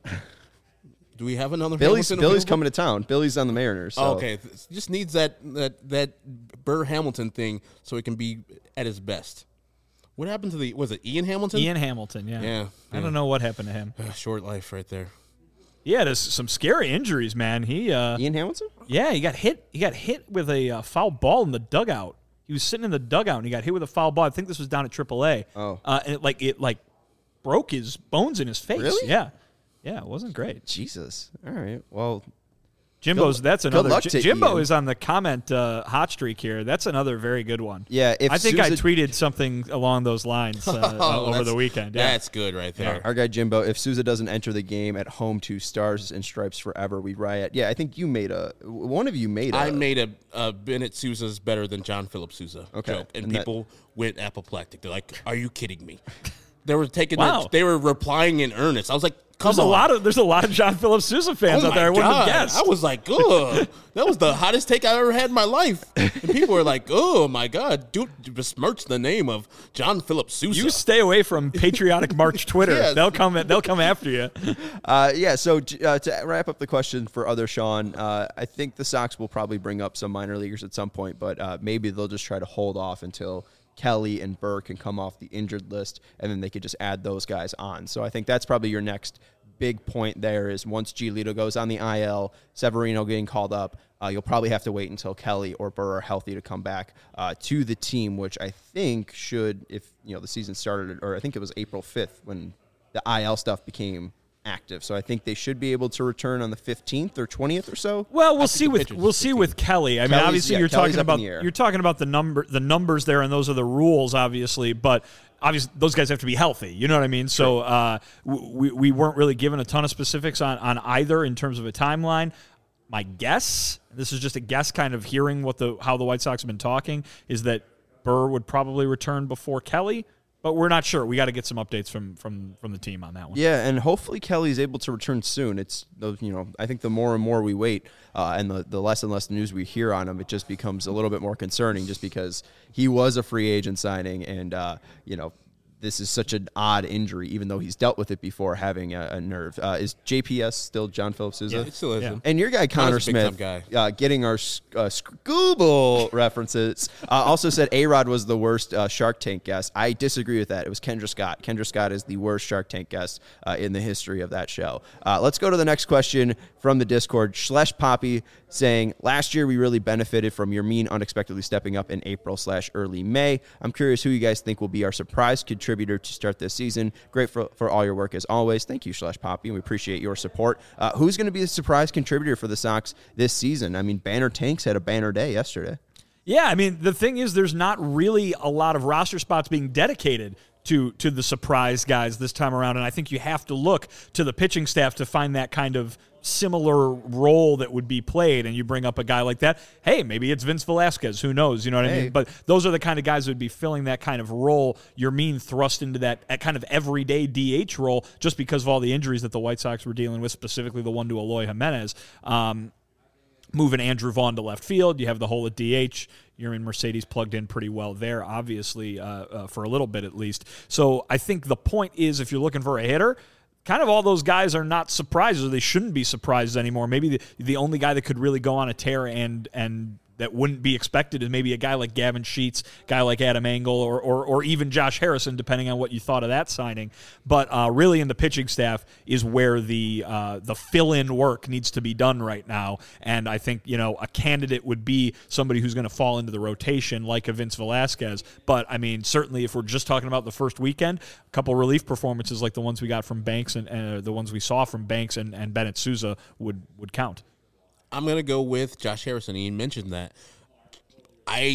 Do we have another Billy's Hamilton Billy's available? coming to town. Billy's on the Mariners. So. Oh, okay, Th- just needs that that that Burr Hamilton thing so he can be at his best. What happened to the was it Ian Hamilton? Ian Hamilton, yeah. Yeah, I yeah. don't know what happened to him. Short life right there. He had a, some scary injuries, man. He, uh, Ian Hamilton? yeah, he got hit. He got hit with a uh, foul ball in the dugout. He was sitting in the dugout and he got hit with a foul ball. I think this was down at triple A. Oh. uh, and it like it like broke his bones in his face. Really? Yeah, yeah, it wasn't great. Jesus. All right. Well, Jimbo's Good- that's good another. luck J- to Jimbo Ian. is on the comment uh, hot streak here. That's another very good one. yeah. If I think I Sousa- tweeted something along those lines uh, uh, over that's- the weekend. Yeah. That's good right there. Our guy Jimbo, if Souza doesn't enter the game at home to Stars and Stripes forever, we riot. Yeah, I think you made a one of you made a I made a, a Bennett Sousa's better than John Philip Sousa Okay. joke, and, And that- people went apoplectic. They're like, "Are you kidding me?" They were taking. Wow. Their, they were replying in earnest. I was like, "Come There's on!" a lot of there's a lot of John Philip Sousa fans Oh out there. I my wouldn't have God. guessed. I was like, ugh. That was the hottest take I ever had in my life. And people were like, oh my God, dude, besmirch the name of John Philip Sousa. You stay away from Patriotic March Twitter. Yes. They'll come. They'll come after you. Uh, yeah, so uh, to wrap up the question for other Sean, uh, I think the Sox will probably bring up some minor leaguers at some point, but uh, maybe they'll just try to hold off until Kelly and Burr can come off the injured list, and then they could just add those guys on. So I think that's probably your next big point there is once Giolito goes on the I L, Severino getting called up, uh, you'll probably have to wait until Kelly or Burr are healthy to come back uh, to the team, which I think should, if you know the season started, or I think it was April fifth when the I L stuff became active. So I think they should be able to return on the fifteenth or twentieth or so. Well, we'll think see the with pitcher's we'll see with Kelly. I mean, Kelly's- obviously yeah, you're Kelly's talking up in about the air. you're talking about the number the numbers there, and those are the rules, obviously. But obviously, those guys have to be healthy. You know what I mean? So uh, we we weren't really given a ton of specifics on on either in terms of a timeline. My guess, this is just a guess, kind of hearing what the how the White Sox have been talking, is that Burr would probably return before Kelly. But we're not sure. We got to get some updates from from from the team on that one. Yeah, and hopefully Kelly's able to return soon. It's those, you know, I think the more and more we wait, uh, and the, the less and less news we hear on him, it just becomes a little bit more concerning. Just because he was a free agent signing, and uh, you know, this is such an odd injury, even though he's dealt with it before, having a, a nerve. Uh, is J P S still John Philip Sousa? Yeah, it still is. Yeah. And your guy Connor Connor's a big-time Smith, guy. Uh, getting our uh, Scooble references, uh, also said A-Rod was the worst uh, Shark Tank guest. I disagree with that. It was Kendra Scott. Kendra Scott is the worst Shark Tank guest uh, in the history of that show. Uh, let's go to the next question from the Discord. Schlesh Poppy saying, last year we really benefited from your mean unexpectedly stepping up in April slash early May. I'm curious who you guys think will be our surprise contributor to start this season. Great for, for all your work as always. Thank you, Schlesh Poppy, and we appreciate your support. Uh, who's going to be the surprise contributor for the Sox this season? I mean, Banner Tanks had a banner day yesterday. Yeah, I mean, the thing is there's not really a lot of roster spots being dedicated to to the surprise guys this time around, and I think you have to look to the pitching staff to find that kind of similar role that would be played, and you bring up a guy like that, hey, maybe it's Vince Velasquez, who knows, you know what I Hey. mean? But those are the kind of guys who would be filling that kind of role. You're mean thrust into that that kind of everyday D H role just because of all the injuries that the White Sox were dealing with, specifically the one to Eloy Jimenez. Um, moving Andrew Vaughn to left field, you have the hole at D H. You're in Mercedes plugged in pretty well there, obviously, uh, uh, for a little bit at least. So I think the point is, if you're looking for a hitter, kind of all those guys are not surprises, or they shouldn't be surprises anymore. Maybe the, the only guy that could really go on a tear and and that wouldn't be expected is maybe a guy like Gavin Sheets, guy like Adam Engel, or or, or even Josh Harrison, depending on what you thought of that signing. But uh, really, in the pitching staff is where the uh, the fill-in work needs to be done right now. And I think, you know, a candidate would be somebody who's going to fall into the rotation, like a Vince Velasquez. But I mean, certainly, if we're just talking about the first weekend, a couple relief performances like the ones we got from Banks and uh, the ones we saw from Banks and, and Bennett Sousa would would count. I'm going to go with Josh Harrison. He mentioned that. I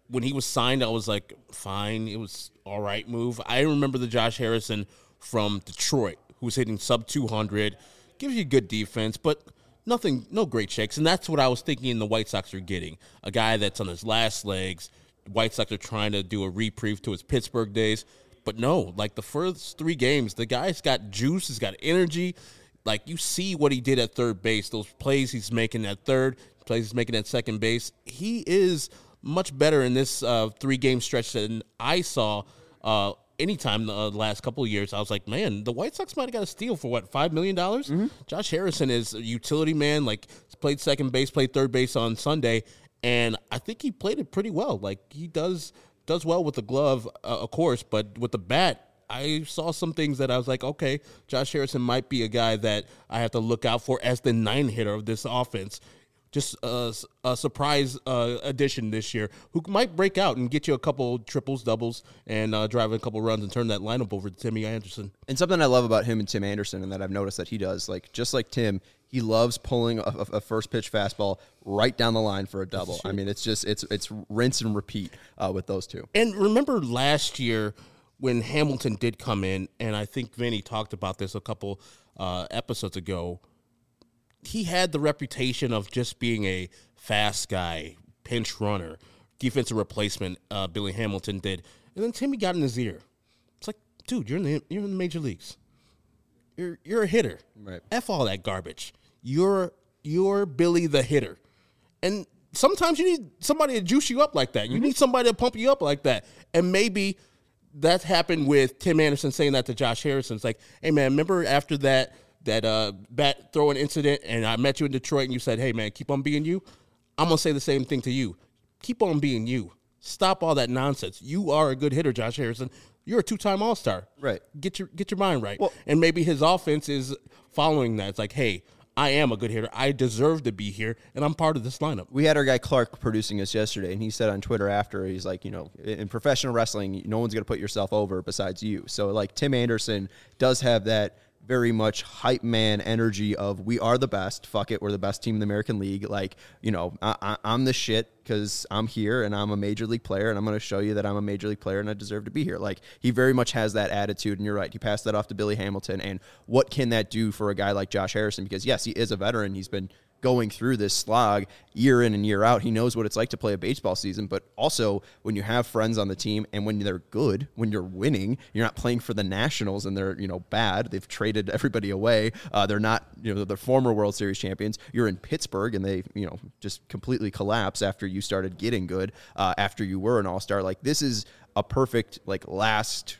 when he was signed, I was like, fine, it was all right move. I remember the Josh Harrison from Detroit, who was hitting sub two hundred, gives you good defense, but nothing, no great checks. And that's what I was thinking the White Sox are getting. A guy that's on his last legs. White Sox are trying to do a reprieve to his Pittsburgh days. But no, like the first three games, the guy's got juice, he's got energy. Like you see what he did at third base, those plays he's making at third, plays he's making at second base. He is much better in this uh, three-game stretch than I saw uh, anytime in the last couple of years. I was like, man, the White Sox might have got a steal for, what, five million dollars? Mm-hmm. Josh Harrison is a utility man, like played second base, played third base on Sunday, and I think he played it pretty well. Like he does does well with the glove, uh, of course, but with the bat, I saw some things that I was like, okay, Josh Harrison might be a guy that I have to look out for as the nine hitter of this offense. Just a, a surprise uh, addition this year who might break out and get you a couple triples, doubles, and uh, drive a couple runs and turn that lineup over to Timmy Anderson. And something I love about him and Tim Anderson, and that I've noticed that he does, like just like Tim, he loves pulling a, a first pitch fastball right down the line for a double. I mean, it's just it's it's rinse and repeat uh, with those two. And remember last year when Hamilton did come in, and I think Vinny talked about this a couple uh, episodes ago. He had the reputation of just being a fast guy, pinch runner, defensive replacement. Uh, Billy Hamilton did, and then Timmy got in his ear. It's like, dude, you're in the you're in the major leagues. You're you're a hitter. Right. F all that garbage. You're you're Billy the hitter, and sometimes you need somebody to juice you up like that. You mm-hmm. need somebody to pump you up like that, and maybe that happened with Tim Anderson saying that to Josh Harrison. It's like, hey man, remember after that. that uh, bat throwing incident, and I met you in Detroit, and you said, hey, man, keep on being you, I'm going to say the same thing to you. Keep on being you. Stop all that nonsense. You are a good hitter, Josh Harrison. You're a two-time All-Star. Right. Get your get your mind right. Well, and maybe his offense is following that. It's like, hey, I am a good hitter. I deserve to be here, and I'm part of this lineup. We had our guy Clark producing us yesterday, and he said on Twitter after, he's like, you know, in professional wrestling, no one's going to put yourself over besides you. So, like, Tim Anderson does have that very much hype man energy of we are the best. Fuck it, we're the best team in the American League. Like, you know, I, I, I'm the shit because I'm here and I'm a major league player, and I'm going to show you that I'm a major league player and I deserve to be here. Like, he very much has that attitude, and you're right. He passed that off to Billy Hamilton, and what can that do for a guy like Josh Harrison? Because, yes, he is a veteran. He's been going through this slog year in and year out. He knows what it's like to play a baseball season, but also when you have friends on the team and when they're good, when you're winning, you're not playing for the Nationals and they're, you know, bad. They've traded everybody away. Uh, they're not, you know, the former World Series champions. You're in Pittsburgh and they, you know, just completely collapse after you started getting good, uh, after you were an all-star. Like, this is a perfect, like, last,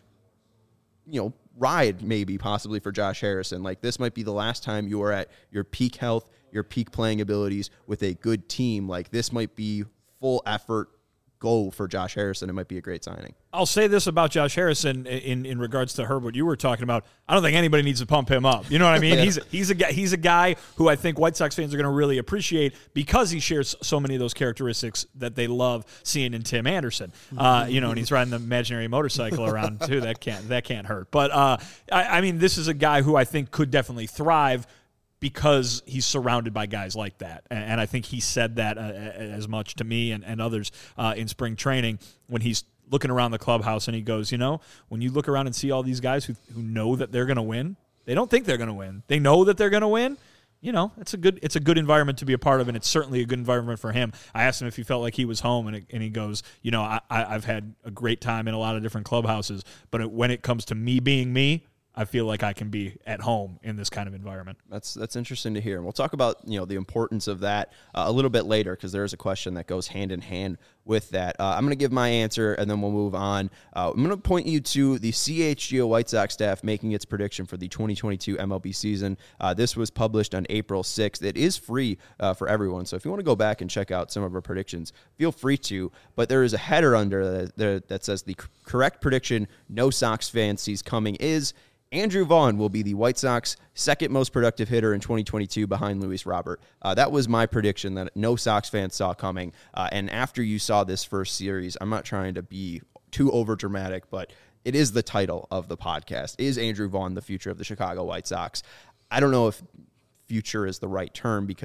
you know, ride maybe possibly for Josh Harrison. Like, this might be the last time you are at your peak health, your peak playing abilities with a good team. Like, this might be full effort go for Josh Harrison. It might be a great signing. I'll say this about Josh Harrison in, in regards to Herb, what you were talking about. I don't think anybody needs to pump him up. You know what I mean? yeah. He's he's a guy, he's a guy who I think White Sox fans are going to really appreciate because he shares so many of those characteristics that they love seeing in Tim Anderson. Uh, you know, and he's riding the imaginary motorcycle around too. That can't that can't hurt. But uh, I, I mean, this is a guy who I think could definitely thrive because he's surrounded by guys like that. And I think he said that uh, as much to me and, and others uh, in spring training when he's looking around the clubhouse and he goes, you know, when you look around and see all these guys who, who know that they're going to win, they don't think they're going to win. They know that they're going to win. You know, it's a good it's a good environment to be a part of, and it's certainly a good environment for him. I asked him if he felt like he was home, and, it, and he goes, you know, I, I've had a great time in a lot of different clubhouses, but it, when it comes to me being me, I feel like I can be at home in this kind of environment. That's that's interesting to hear. And we'll talk about, you know, the importance of that uh, a little bit later because there is a question that goes hand in hand with that. Uh, I'm going to give my answer, and then we'll move on. Uh, I'm going to point you to the C H G O White Sox staff making its prediction for the twenty twenty-two M L B season. Uh, this was published on April sixth. It is free uh, for everyone, so if you want to go back and check out some of our predictions, feel free to. But there is a header under that, that says the correct prediction no Sox fan sees coming is Andrew Vaughn will be the White Sox second most productive hitter in twenty twenty-two behind Luis Robert. Uh, that was my prediction that no Sox fans saw coming. Uh, and after you saw this first series, I'm not trying to be too overdramatic, but it is the title of the podcast. Is Andrew Vaughn the future of the Chicago White Sox? I don't know if future is the right term because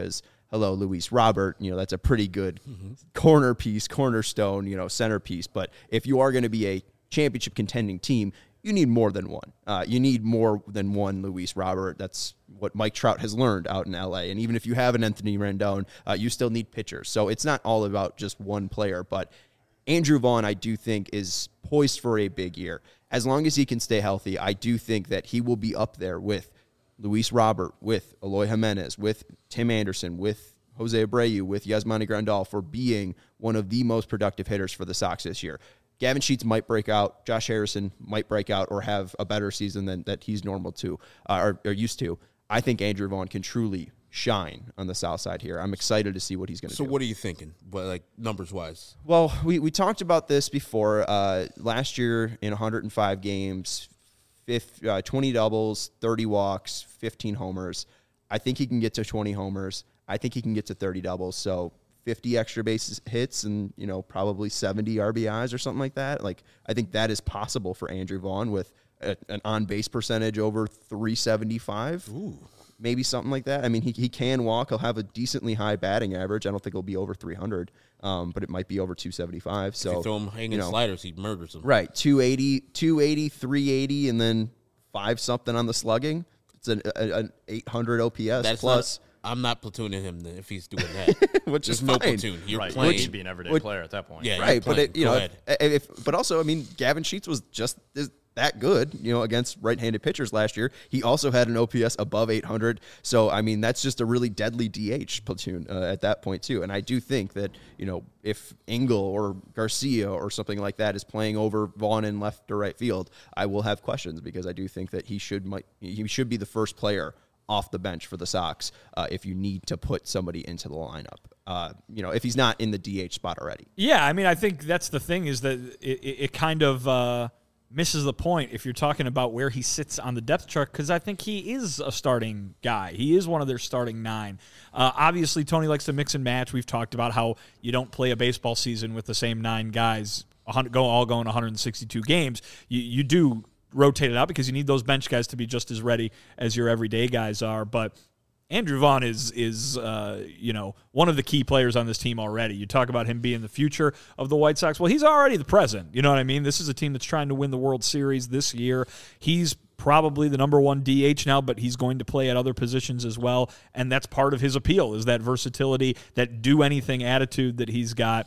hello, Luis Robert, you know, that's a pretty good Mm-hmm. corner piece, cornerstone, you know, centerpiece. But if you are going to be a championship contending team, you need more than one. Uh, you need more than one Luis Robert. That's what Mike Trout has learned out in L A. And even if you have an Anthony Rendon, uh, you still need pitchers. So it's not all about just one player. But Andrew Vaughn, I do think, is poised for a big year. As long as he can stay healthy, I do think that he will be up there with Luis Robert, with Eloy Jimenez, with Tim Anderson, with Jose Abreu, with Yasmani Grandal for being one of the most productive hitters for the Sox this year. Gavin Sheets might break out. Josh Harrison might break out or have a better season than that he's normal to uh, or, or used to. I think Andrew Vaughn can truly shine on the South Side here. I'm excited to see what he's going to So do. what are you thinking, well, like numbers-wise? Well, we, we talked about this before. Uh, last year in one hundred five games, fifty, uh, twenty doubles, thirty walks, fifteen homers. I think he can get to twenty homers. I think he can get to thirty doubles. So fifty extra base hits and, you know, probably seventy R B Is or something like that. Like, I think that is possible for Andrew Vaughn with a, an on-base percentage over three seventy-five. Ooh. Maybe something like that. I mean, he he can walk. He'll have a decently high batting average. I don't think it'll be over three hundred, um, but it might be over two seventy-five. So If you throw him hanging you know, sliders, he murders them. right, two eighty, two eighty, three eighty, and then five something on the slugging. It's an, a, an eight hundred O P S That's plus, Not, I'm not platooning him then if he's doing that. which There's is no fine. platoon. You're Right, playing. you should be an everyday Which- player at that point. Yeah, you're Right, but playing. it, you Go know, ahead. if, if, but also, I mean, Gavin Sheets was just is that good, you know, against right-handed pitchers last year. He also had an O P S above eight hundred. So, I mean, that's just a really deadly D H platoon uh, at that point too. And I do think that, you know, if Engel or Garcia or something like that is playing over Vaughn in left or right field, I will have questions because I do think that he should might he should be the first player off the bench for the Sox uh, if you need to put somebody into the lineup. Uh, you know, if he's not in the D H spot already. Yeah, I mean, I think that's the thing is that it, it, it kind of uh, misses the point if you're talking about where he sits on the depth chart, because I think he is a starting guy. He is one of their starting nine. Uh, obviously, Tony likes to mix and match. We've talked about how you don't play a baseball season with the same nine guys, one hundred, go all going one hundred sixty-two games. You, you do rotate it out because you need those bench guys to be just as ready as your everyday guys are. But Andrew Vaughn is, is uh, you know, one of the key players on this team already. You talk about him being the future of the White Sox. Well, he's already the present. You know what I mean? This is a team that's trying to win the World Series this year. He's probably the number one D H now, but he's going to play at other positions as well. And that's part of his appeal is that versatility, that do-anything attitude that he's got.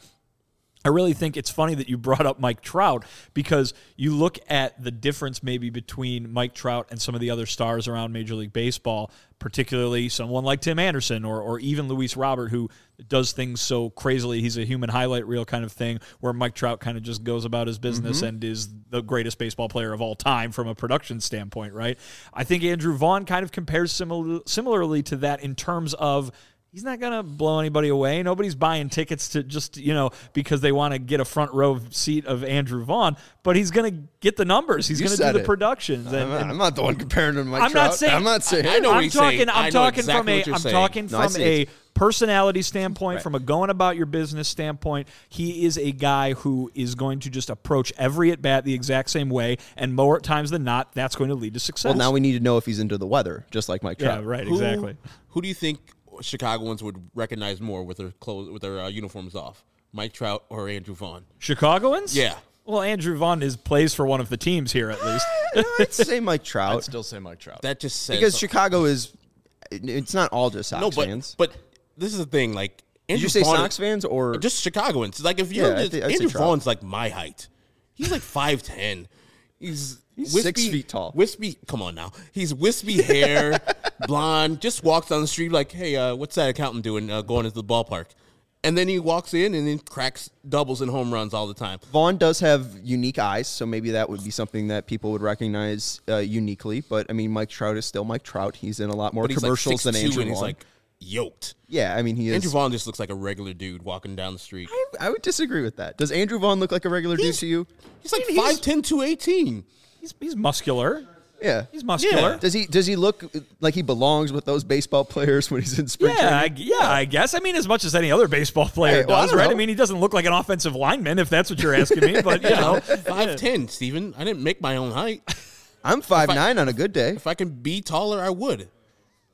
I really think it's funny that you brought up Mike Trout because you look at the difference maybe between Mike Trout and some of the other stars around Major League Baseball, particularly someone like Tim Anderson or or even Luis Robert, who does things so crazily. He's a human highlight reel kind of thing, where Mike Trout kind of just goes about his business mm-hmm. and is the greatest baseball player of all time from a production standpoint, right? I think Andrew Vaughn kind of compares simil- similarly to that in terms of he's not going to blow anybody away. Nobody's buying tickets to just, you know, because they want to get a front row seat of Andrew Vaughn, but he's going to get the numbers. He's going to do the it. productions. I'm, And, not, and I'm not the one comparing him to Mike I'm Trout. not saying. I'm not saying. I know what I'm he's talking. saying. I I'm know talking exactly from a. what you're I'm saying. talking No, I from see a it. personality standpoint, Right. from a going about your business standpoint. He is a guy who is going to just approach every at bat the exact same way, and more times than not, that's going to lead to success. Well, now we need to know if he's into the weather, just like Mike yeah, Trout. right, Who- exactly. Who do you think Chicagoans would recognize more with their clothes, with their uh, uniforms off? Mike Trout or Andrew Vaughn? Chicagoans? Yeah. Well, Andrew Vaughn is plays for one of the teams here at least. I'd say Mike I'd Trout still say Mike Trout. That just says because Chicago is. It's not all just Sox no, but fans. but this is the thing. Like, Did Andrew you say Vaughn, Sox fans or just Chicagoans? Like, if you're Yeah, I just, thi- I'd say Andrew Trout. Vaughn's like my height. He's like five ten. He's He's wispy, six feet tall. Wispy, come on now. He's wispy hair, blonde. Just walks down the street like, hey, uh, what's that accountant doing? Uh, going into the ballpark, and then he walks in and then cracks doubles and home runs all the time. Vaughn does have unique eyes, so maybe that would be something that people would recognize uh, uniquely. But I mean, Mike Trout is still Mike Trout. He's in a lot more But he's commercials like than six two Andrew and he's Vaughn. like yoked. yeah, I mean, he is. Andrew Vaughn just looks like a regular dude walking down the street. I, I would disagree with that. Does Andrew Vaughn look like a regular dude He's- to you? He's like I mean, he's- five ten, two eighteen. He's he's muscular. Yeah. He's muscular. Yeah. Does he does he look like he belongs with those baseball players when he's in spring Yeah, I, training? yeah, I guess. I mean, as much as any other baseball player Hey, well, I does, don't right? know. I mean, he doesn't look like an offensive lineman, if that's what you're asking me. But you know, five ten, Steven. I didn't make my own height. I'm five I- nine on a good day. If I can be taller, I would.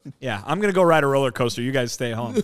Yeah, I'm going to go ride a roller coaster. You guys stay home.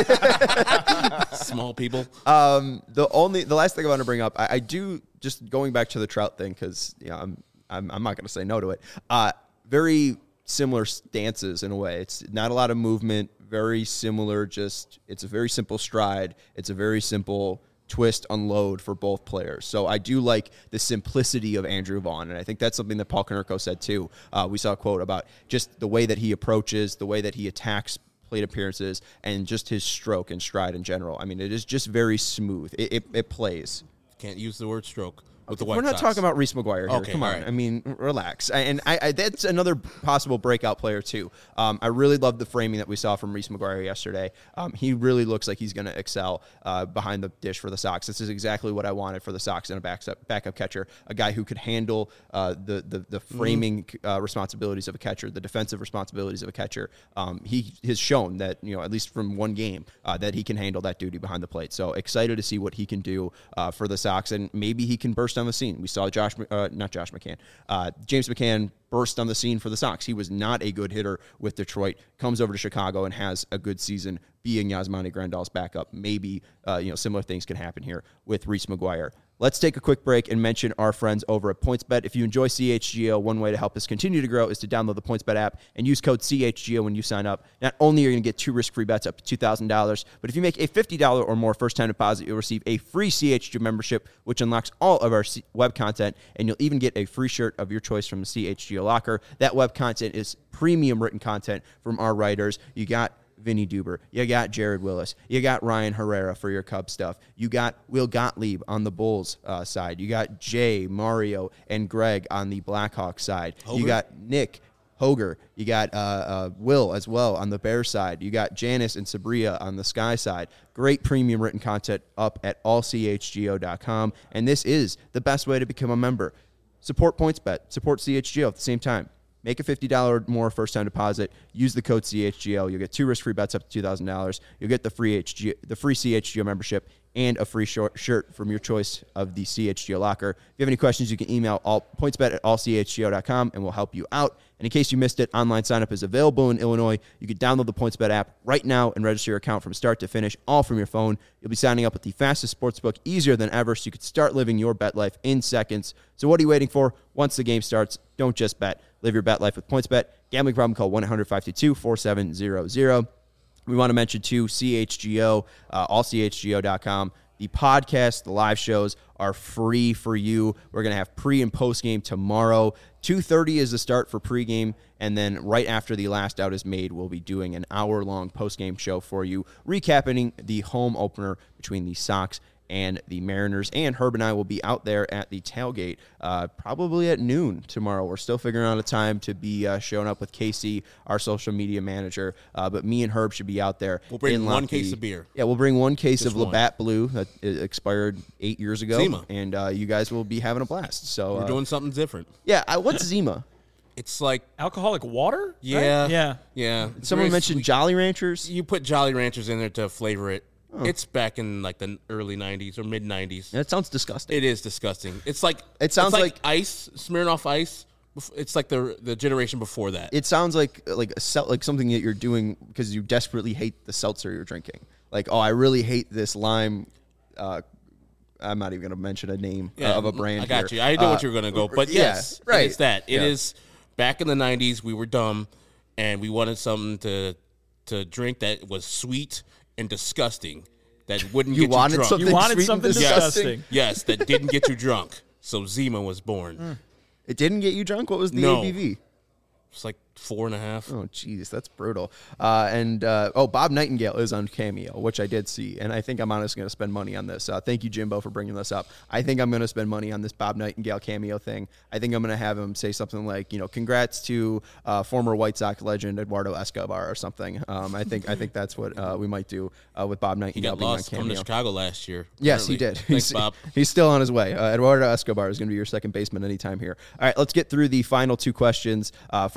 Small people. Um, the only the last thing I want to bring up, I, I do just going back to the Trout thing because you know I'm I'm I'm not going to say no to it. Uh, very similar stances in a way. It's not a lot of movement. Very similar. Just it's a very simple stride. It's a very simple twist, unload for both players. So I do like the simplicity of Andrew Vaughn, and I think that's something that Paul Konerko said too. Uh, we saw a quote about just the way that he approaches, the way that he attacks plate appearances, and just his stroke and stride in general. I mean, it is just very smooth. It, it, it plays. Can't use the word stroke with the White We're not Sox. talking about Reese McGuire here. Okay, Come on. all right. I mean, relax. I, and I, I, that's another possible breakout player, too. Um, I really love the framing that we saw from Reese McGuire yesterday. Um, he really looks like he's going to excel uh, behind the dish for the Sox. This is exactly what I wanted for the Sox in a backup, backup catcher, a guy who could handle uh, the, the, the framing uh, responsibilities of a catcher, the defensive responsibilities of a catcher. Um, he has shown that, you know, at least from one game, uh, that he can handle that duty behind the plate. So excited to see what he can do uh, for the Sox, and maybe he can burst on the scene. We saw Josh, uh, not Josh McCann, uh, James McCann burst on the scene for the Sox. He was not a good hitter with Detroit, comes over to Chicago and has a good season being Yasmani Grandal's backup. Maybe, uh, you know, similar things can happen here with Reese McGuire. Let's take a quick break and mention our friends over at PointsBet. If you enjoy C H G O, one way to help us continue to grow is to download the PointsBet app and use code C H G O when you sign up. Not only are you going to get two risk-free bets up to two thousand dollars, but if you make a fifty dollars or more first-time deposit, you'll receive a free C H G O membership, which unlocks all of our web content, and you'll even get a free shirt of your choice from the C H G O locker. That web content is premium written content from our writers. You got Vinny Duber, you got Jared Willis, you got Ryan Herrera for your Cubs stuff, you got Will Gottlieb on the Bulls uh, side, you got Jay, Mario, and Greg on the Blackhawks side, Hoger? You got Nick, Hoger, you got uh, uh, Will as well on the Bears side, you got Janice and Sabria on the Sky side. Great premium written content up at all C H G O dot com, and this is the best way to become a member. Support PointsBet, support C H G O at the same time. Make a fifty dollars or more first-time deposit. Use the code C H G O. You'll get two risk-free bets up to two thousand dollars. You'll get the free H G, the free C H G O membership and a free short shirt from your choice of the C H G O locker. If you have any questions, you can email all pointsbet at all C H G O dot com, and we'll help you out. And in case you missed it, online sign-up is available in Illinois. You can download the PointsBet app right now and register your account from start to finish, all from your phone. You'll be signing up with the fastest sportsbook, easier than ever, so you can start living your bet life in seconds. So what are you waiting for? Once the game starts, don't just bet. Live your bet life with PointsBet. Gambling problem, call one eight hundred five two two four seven zero zero. We want to mention, too, C H G O, uh, all C H G O dot com. The podcast, the live shows are free for you. We're going to have pre- and post-game tomorrow. two thirty is the start for pregame, and then right after the last out is made, we'll be doing an hour-long post-game show for you, recapping the home opener between the Sox and the Mariners. And Herb and I will be out there at the tailgate uh, probably at noon tomorrow. We're still figuring out a time to be uh, showing up with Casey, our social media manager. Uh, but me and Herb should be out there. We'll bring in one Lockheed. case of beer. Yeah, we'll bring one case Just of one. Labatt Blue that uh, expired eight years ago. Zima. And uh, you guys will be having a blast. So We're uh, doing something different. yeah, I, what's Zima? It's like, Alcoholic water? right? yeah. Yeah. Yeah. It's Someone very mentioned sweet. Jolly Ranchers. You put Jolly Ranchers in there to flavor it. It's back in like the early nineties or mid nineties. That sounds disgusting. It is disgusting. It's like It sounds it's like, like- ice, Smirnoff Ice. Bef- It's like the the generation before that. It sounds like like a sel- like something that you're doing because you desperately hate the seltzer you're drinking. Like, oh, I really hate this lime. Uh, I'm not even going to mention a name uh, of a brand. I got here. you. I know Uh, what you're going to go. But yeah, yes, right. it's that. It Yeah. is back in the nineties. We were dumb, and we wanted something to to drink that was sweet and disgusting. That wouldn't You get wanted you drunk. something You wanted sweet and something disgusting? disgusting. Yes, that didn't get you drunk. So Zima was born. It didn't get you drunk. What was the No. A B V? It's like four and a half. Oh, jeez, that's brutal. Uh, and, uh, oh, Bob Nightingale is on Cameo, which I did see, and I think I'm honestly going to spend money on this. Uh, thank you, Jimbo, for bringing this up. I think I'm going to spend money on this Bob Nightingale Cameo thing. I think I'm going to have him say something like, you know, congrats to uh, former White Sox legend Eduardo Escobar or something. Um, I think I think that's what uh, we might do uh, with Bob He Nightingale got being lost on coming to Cameo. Chicago last year. Yes, he apparently. did. Thanks, he's, Bob. He's still on his way. Uh, Eduardo Escobar is going to be your second baseman anytime here. All right, let's get through the final two questions. Uh, first, Leonard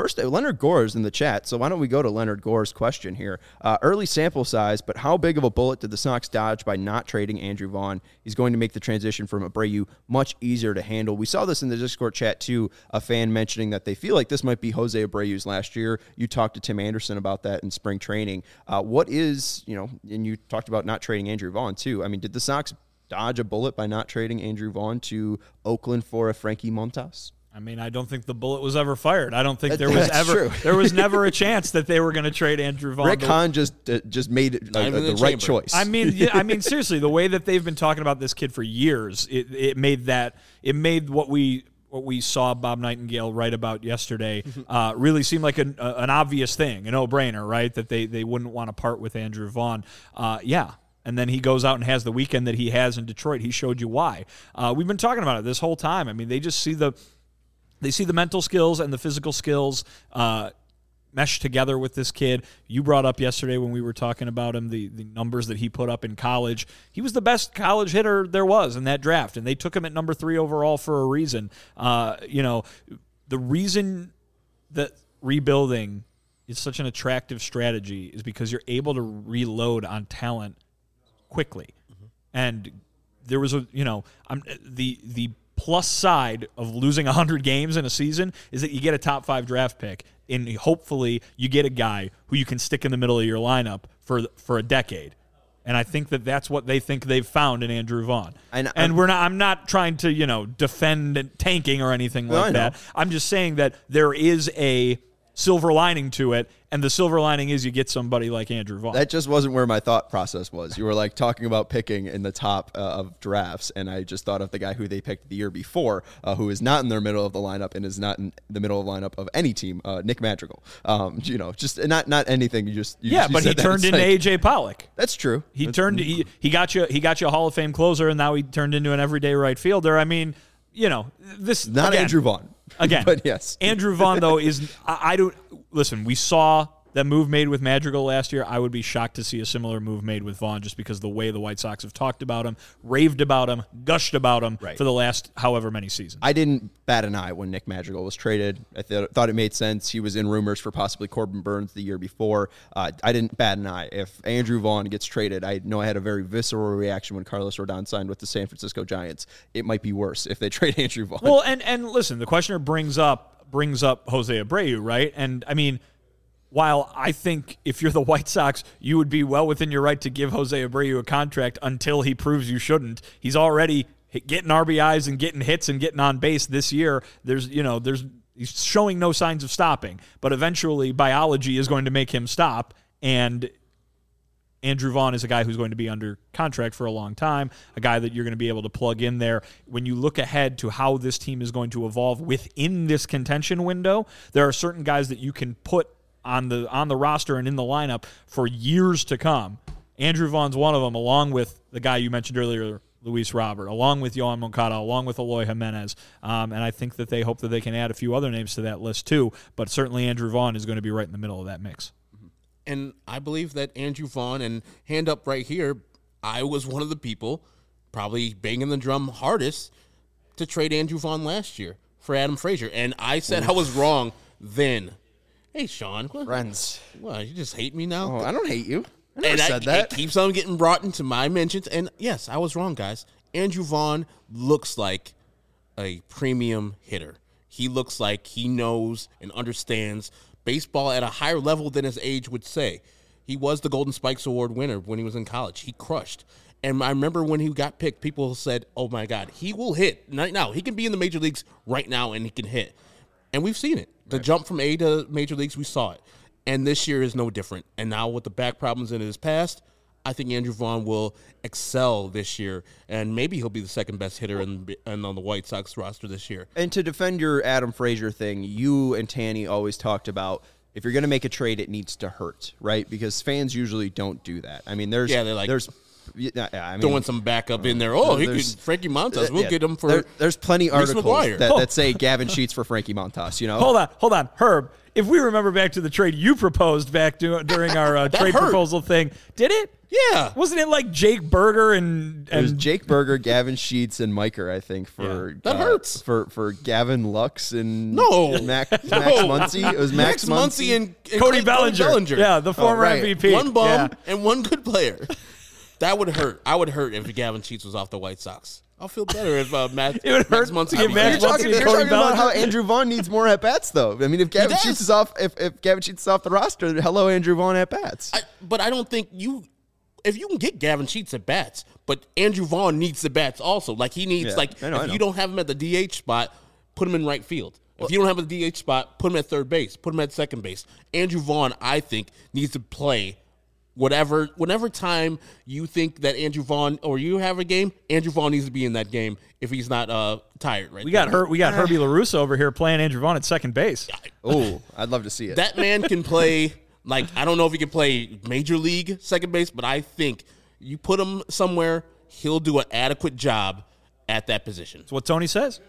Leonard Gore's in the chat, so why don't we go to Leonard Gore's question here? Uh, early sample size, but how big of a bullet did the Sox dodge by not trading Andrew Vaughn? He's going to make the transition from Abreu much easier to handle. We saw this in the Discord chat, too, a fan mentioning that they feel like this might be Jose Abreu's last year. You talked to Tim Anderson about that in spring training. Uh, what is, you know, and you talked about not trading Andrew Vaughn, too. I mean, did the Sox dodge a bullet by not trading Andrew Vaughn to Oakland for a Frankie Montas? I mean, I don't think the bullet was ever fired. I don't think there was That's ever true. there was never a chance that they were going to trade Andrew Vaughn. Rick Hahn just uh, just made it uh, Not even the in the right chamber. choice. I mean, yeah, I mean, seriously, the way that they've been talking about this kid for years, it, it made that it made what we what we saw Bob Nightingale write about yesterday uh, really seem like an, uh, an obvious thing, a no-brainer, right? That they they wouldn't want to part with Andrew Vaughn. Uh, yeah. And then he goes out and has the weekend that he has in Detroit. He showed you why. Uh, we've been talking about it this whole time. I mean, they just see the they see the mental skills and the physical skills uh, mesh together with this kid. You brought up yesterday when we were talking about him the, the numbers that he put up in college. He was the best college hitter there was in that draft, and they took him at number three overall for a reason. Uh, you know, the reason that rebuilding is such an attractive strategy is because you're able to reload on talent quickly. Mm-hmm. And there was a, you know, I'm the the plus side of losing one hundred games in a season is that you get a top five draft pick, and hopefully you get a guy who you can stick in the middle of your lineup for for a decade. And I think that that's what they think they've found in Andrew Vaughn. And, and we're not. I'm not trying to, you know, defend tanking or anything Well, like that. I'm just saying that there is a silver lining to it, and the silver lining is you get somebody like Andrew Vaughn. That just wasn't where my thought process was. You were like talking about picking in the top uh, of drafts, and I just thought of the guy who they picked the year before, uh, who is not in their middle of the lineup and is not in the middle of the lineup of any team, uh, Nick Madrigal. Um, you know, just not not anything. You just you, yeah, you but he said that. turned It's into like, A J Pollock. That's true. He That's, turned he, he got you he got you a Hall of Fame closer, and now he turned into an everyday right fielder. I mean, you know, this not again, Andrew Vaughn again. but yes, Andrew Vaughn though is I, I don't listen. We saw that move made with Madrigal last year. I would be shocked to see a similar move made with Vaughn, just because the way the White Sox have talked about him, raved about him, gushed about him Right. for the last however many seasons. I didn't bat an eye when Nick Madrigal was traded. I th- thought it made sense. He was in rumors for possibly Corbin Burns the year before. Uh, I didn't bat an eye. If Andrew Vaughn gets traded, I know I had a very visceral reaction when Carlos Rodon signed with the San Francisco Giants. It might be worse if they trade Andrew Vaughn. Well, and and listen, the questioner brings up brings up Jose Abreu, right? And I mean, while I think if you're the White Sox, you would be well within your right to give Jose Abreu a contract until he proves you shouldn't. He's already getting R B Is and getting hits and getting on base this year. There's, you know, there's he's showing no signs of stopping, but eventually biology is going to make him stop. And Andrew Vaughn is a guy who's going to be under contract for a long time, a guy that you're going to be able to plug in there. When you look ahead to how this team is going to evolve within this contention window, there are certain guys that you can put on the on the roster and in the lineup for years to come. Andrew Vaughn's one of them, along with the guy you mentioned earlier, Luis Robert, along with Yohan Moncada, along with Eloy Jimenez. Um, and I think that they hope that they can add a few other names to that list too. But certainly Andrew Vaughn is going to be right in the middle of that mix. And I believe that Andrew Vaughn, and hand up right here, I was one of the people probably banging the drum hardest to trade Andrew Vaughn last year for Adam Frazier. And I said I was wrong then. Hey, Sean. What, Friends. what, you just hate me now? Oh, I don't hate you. I never and said I, that. It keeps on getting brought into my mentions. And yes, I was wrong, guys. Andrew Vaughn looks like a premium hitter. He looks like he knows and understands baseball at a higher level than his age would say. He was the Golden Spikes Award winner when he was in college. He crushed. And I remember when he got picked, people said, oh, my God, he will hit right now. He can be in the major leagues right now, and he can hit. And we've seen it. The right. jump from A to major leagues, we saw it. And this year is no different. And now with the back problems in his past, I think Andrew Vaughn will excel this year, and maybe he'll be the second best hitter in, in, on the White Sox roster this year. And to defend your Adam Frazier thing, you and Tanny always talked about if you're going to make a trade, it needs to hurt, right? Because fans usually don't do that. I mean, there's yeah, they're like there's yeah, I mean, throwing some backup in there. Oh, he could Frankie Montas. We'll yeah, get him for. There, there's plenty Reese articles McGuire. that, Oh. that say Gavin Sheets for Frankie Montas. You know, Hold on, hold on, Herb. if we remember back to the trade you proposed back to, during our uh, trade hurt. proposal thing, did it? Yeah. Wasn't it like Jake Berger and, It was and Jake Berger, Gavin Sheets, and Miker, I think, for Yeah. That uh, hurts. for for Gavin Lux and No. Mac, Max No. Muncy. It was Max, Max Muncy and, and Cody Clay- Bellinger. Yeah, the former right. M V P. One bum Yeah. and one good player. That would hurt. I would hurt if Gavin Sheets was off the White Sox. I'll feel better if uh, Matt, It would Max hurt Muncy to get was Max You're there. Muncy talking, and you're Cody talking about how Bellinger. Andrew Vaughn needs more at bats, though. I mean, if Gavin does. Sheets is off, if, if Gavin Sheets is off the roster, hello, Andrew Vaughn at bats. I, but I don't think you. If you can get Gavin Sheets at bats, but Andrew Vaughn needs the bats also. Like he needs, Yeah, like I know, if I know. you don't have him at the D H spot, put him in right field. If you don't have a D H spot, put him at third base. Put him at second base. Andrew Vaughn, I think, needs to play whatever, whenever time you think that Andrew Vaughn or you have a game, Andrew Vaughn needs to be in that game if he's not uh, tired. Right. We got there. hurt. We got Herbie LaRusso over here playing Andrew Vaughn at second base. Oh, I'd love to see it. That man can play. Like I don't know if he can play major league second base, but I think you put him somewhere, he'll do an adequate job at that position. That's what Tony says.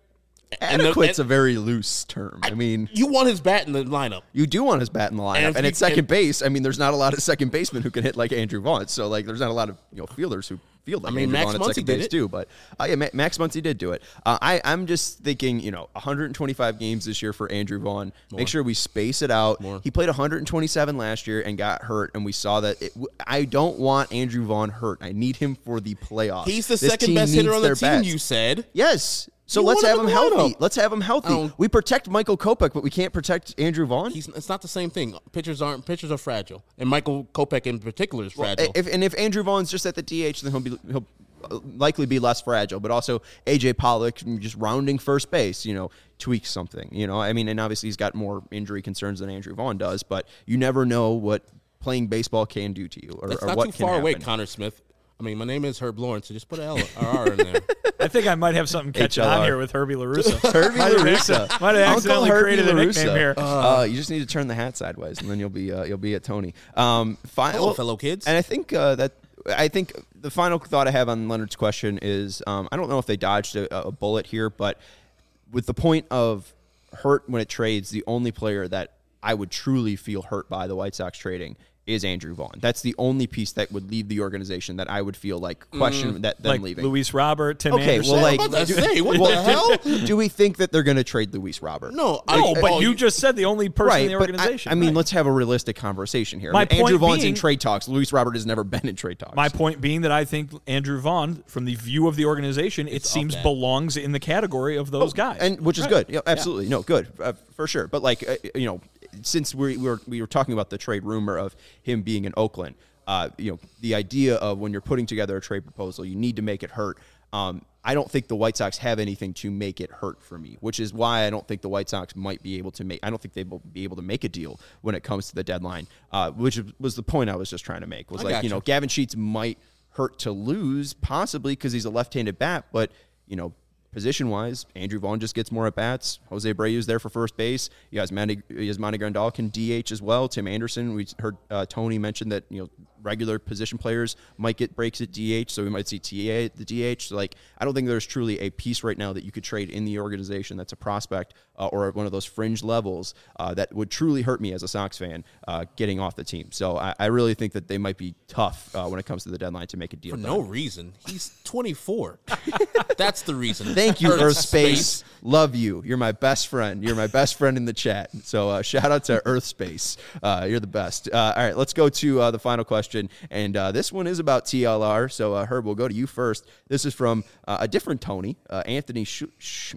And the- Adequate's and- a very loose term. I mean, You want his bat in the lineup. you do want his bat in the lineup, if and, you- at second and- base, I mean, there's not a lot of second basemen who can hit like Andrew Vaughn. So like, there's not a lot of you know fielders who field like I mean, Andrew Max Vaughn at Muncy second did base it. too. But uh, yeah, Ma- Max Muncy did do it. Uh, I I'm just thinking, you know, one hundred twenty-five games this year for Andrew Vaughn. Make sure we space it out. More. He played one hundred twenty-seven last year and got hurt, and we saw that. It, I don't want Andrew Vaughn hurt. I need him for the playoffs. He's the This second team best hitter needs on the their team, bats. you said. Yes. So You let's want have him him in the healthy. lineup. Let's have him healthy. don't- We protect Michael Kopech, but we can't protect Andrew Vaughn. He's it's not the same thing. Pitchers aren't pitchers are fragile. And Michael Kopech in particular is fragile. If, and if Andrew Vaughn's just at the D H, then he'll be he'll likely be less fragile. But also A J Pollock just rounding first base, you know, tweaks something. You know, I mean, and obviously he's got more injury concerns than Andrew Vaughn does. But you never know what playing baseball can do to you, or, That's or not what too can far away, happen. Connor Smith. I mean, my name is Herb Lawrence, so just put an L or R in there. I think I might have something catching H L R. on here with Herbie LaRusso. Herbie Might have LaRusso. acci- might have Uncle accidentally Herbie created a nickname LaRusso. here. Uh, you just need to turn the hat sideways, and then you'll be uh, you'll be at Tony. Um, fi- Hello, well, fellow kids. And I think uh, that I think the final thought I have on Leonard's question is um, I don't know if they dodged a, a bullet here, but with the point of hurt when it trades, the only player that I would truly feel hurt by the White Sox trading is Andrew Vaughn. That's the only piece that would leave the organization that I would feel like question that them Like leaving. Luis Robert, Tim Okay, Anderson. well, like, I'm about to do, say, what well, the hell? do we think that they're going to trade Luis Robert? No, I, no, but oh, you just said the only person Right, in the but I- organization. I, mean, Right. let's have a realistic conversation here. My I mean, Andrew point Vaughn's in being- trade talks. Luis Robert has never been in trade talks. My point being that I think Andrew Vaughn, from the view of the organization, it It's seems off that. belongs in the category of those guys. and which is Right. good. Yeah, absolutely, no, good uh, for sure. But like, uh, you know, since we, we were we were talking about the trade rumor of him being in Oakland, uh, you know, the idea of when you're putting together a trade proposal, you need to make it hurt. Um, I don't think the White Sox have anything to make it hurt for me, which is why I don't think the White Sox might be able to make. I don't think they will be able to make a deal when it comes to the deadline, uh, which was the point I was just trying to make. Was I like, gotcha. you know, Gavin Sheets might hurt to lose, possibly because he's a left-handed bat, but you know. Position-wise, Andrew Vaughn just gets more at-bats. Jose Abreu's there for first base. You guys, Yasmani Grandal can D H as well. Tim Anderson, we heard uh, Tony mention that, you know, regular position players might get breaks at D H, so we might see T A at the D H. So, like, I don't think there's truly a piece right now that you could trade in the organization that's a prospect uh, or one of those fringe levels uh, that would truly hurt me as a Sox fan uh, getting off the team. So I, I really think that they might be tough uh, when it comes to the deadline to make a deal for done. no reason. He's twenty-four. That's the reason. Thank you, Earth Earth Space. Love you. You're my best friend. You're my best friend in the chat. So uh, shout out to Earth Space. Uh, you're the best. Uh, all right, let's go to uh, the final question. And uh, this one is about T L R. So, uh, Herb, we'll go to you first. This is from uh, a different Tony, uh, Anthony Sh- Sh-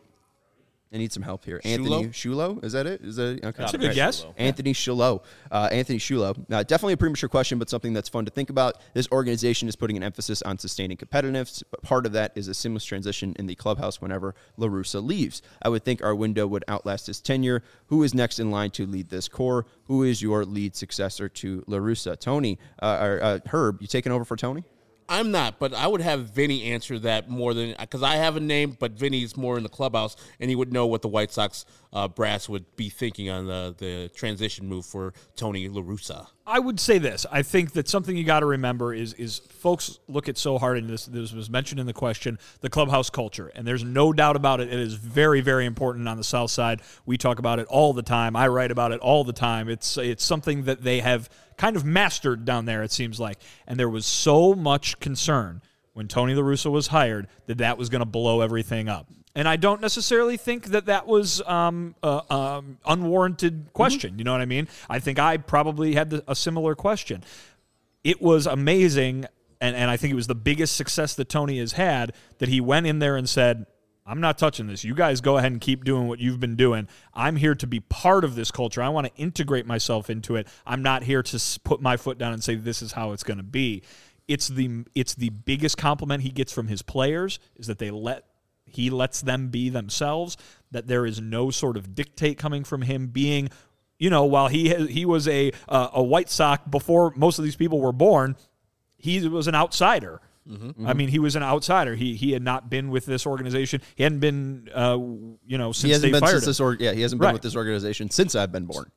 I need some help here. Anthony Shulo? Is that it? Is that okay? That's a good guess. Anthony Shulo. Uh, Anthony Shulo. Uh, definitely a premature question, but something that's fun to think about. This organization is putting an emphasis on sustaining competitiveness, but part of that is a seamless transition in the clubhouse whenever LaRussa leaves. I would think our window would outlast his tenure. Who is next in line to lead this core? Who is your lead successor to LaRussa? Tony, uh, or uh, Herb, you taking over for Tony? I'm not, but I would have Vinny answer that more than because I have a name, but Vinny's more in the clubhouse, and he would know what the White Sox uh, brass would be thinking on the, the transition move for Tony La Russa. I would say this. I think that something you got to remember is is folks look at so hard, and this, this was mentioned in the question, the clubhouse culture. And there's no doubt about it. It is very, very important on the South Side. We talk about it all the time. I write about it all the time. It's it's something that they have kind of mastered down there, it seems like. And there was so much concern when Tony La Russa was hired that that was going to blow everything up. And I don't necessarily think that that was um, uh, um, unwarranted question. Mm-hmm. You know what I mean? I think I probably had the, a similar question. It was amazing, and, and I think it was the biggest success that Tony has had, that he went in there and said, I'm not touching this. You guys go ahead and keep doing what you've been doing. I'm here to be part of this culture. I want to integrate myself into it. I'm not here to put my foot down and say this is how it's going to be. It's the it's the biggest compliment he gets from his players is that they let he lets them be themselves, that there is no sort of dictate coming from him being, you know, while he he was a uh, a White Sox before most of these people were born, he was an outsider. Mm-hmm. I mean, he was an outsider. He he had not been with this organization. He hadn't been, uh, you know, since he hasn't they been fired since him. this or, yeah, he hasn't been Right. with this organization since I've been born.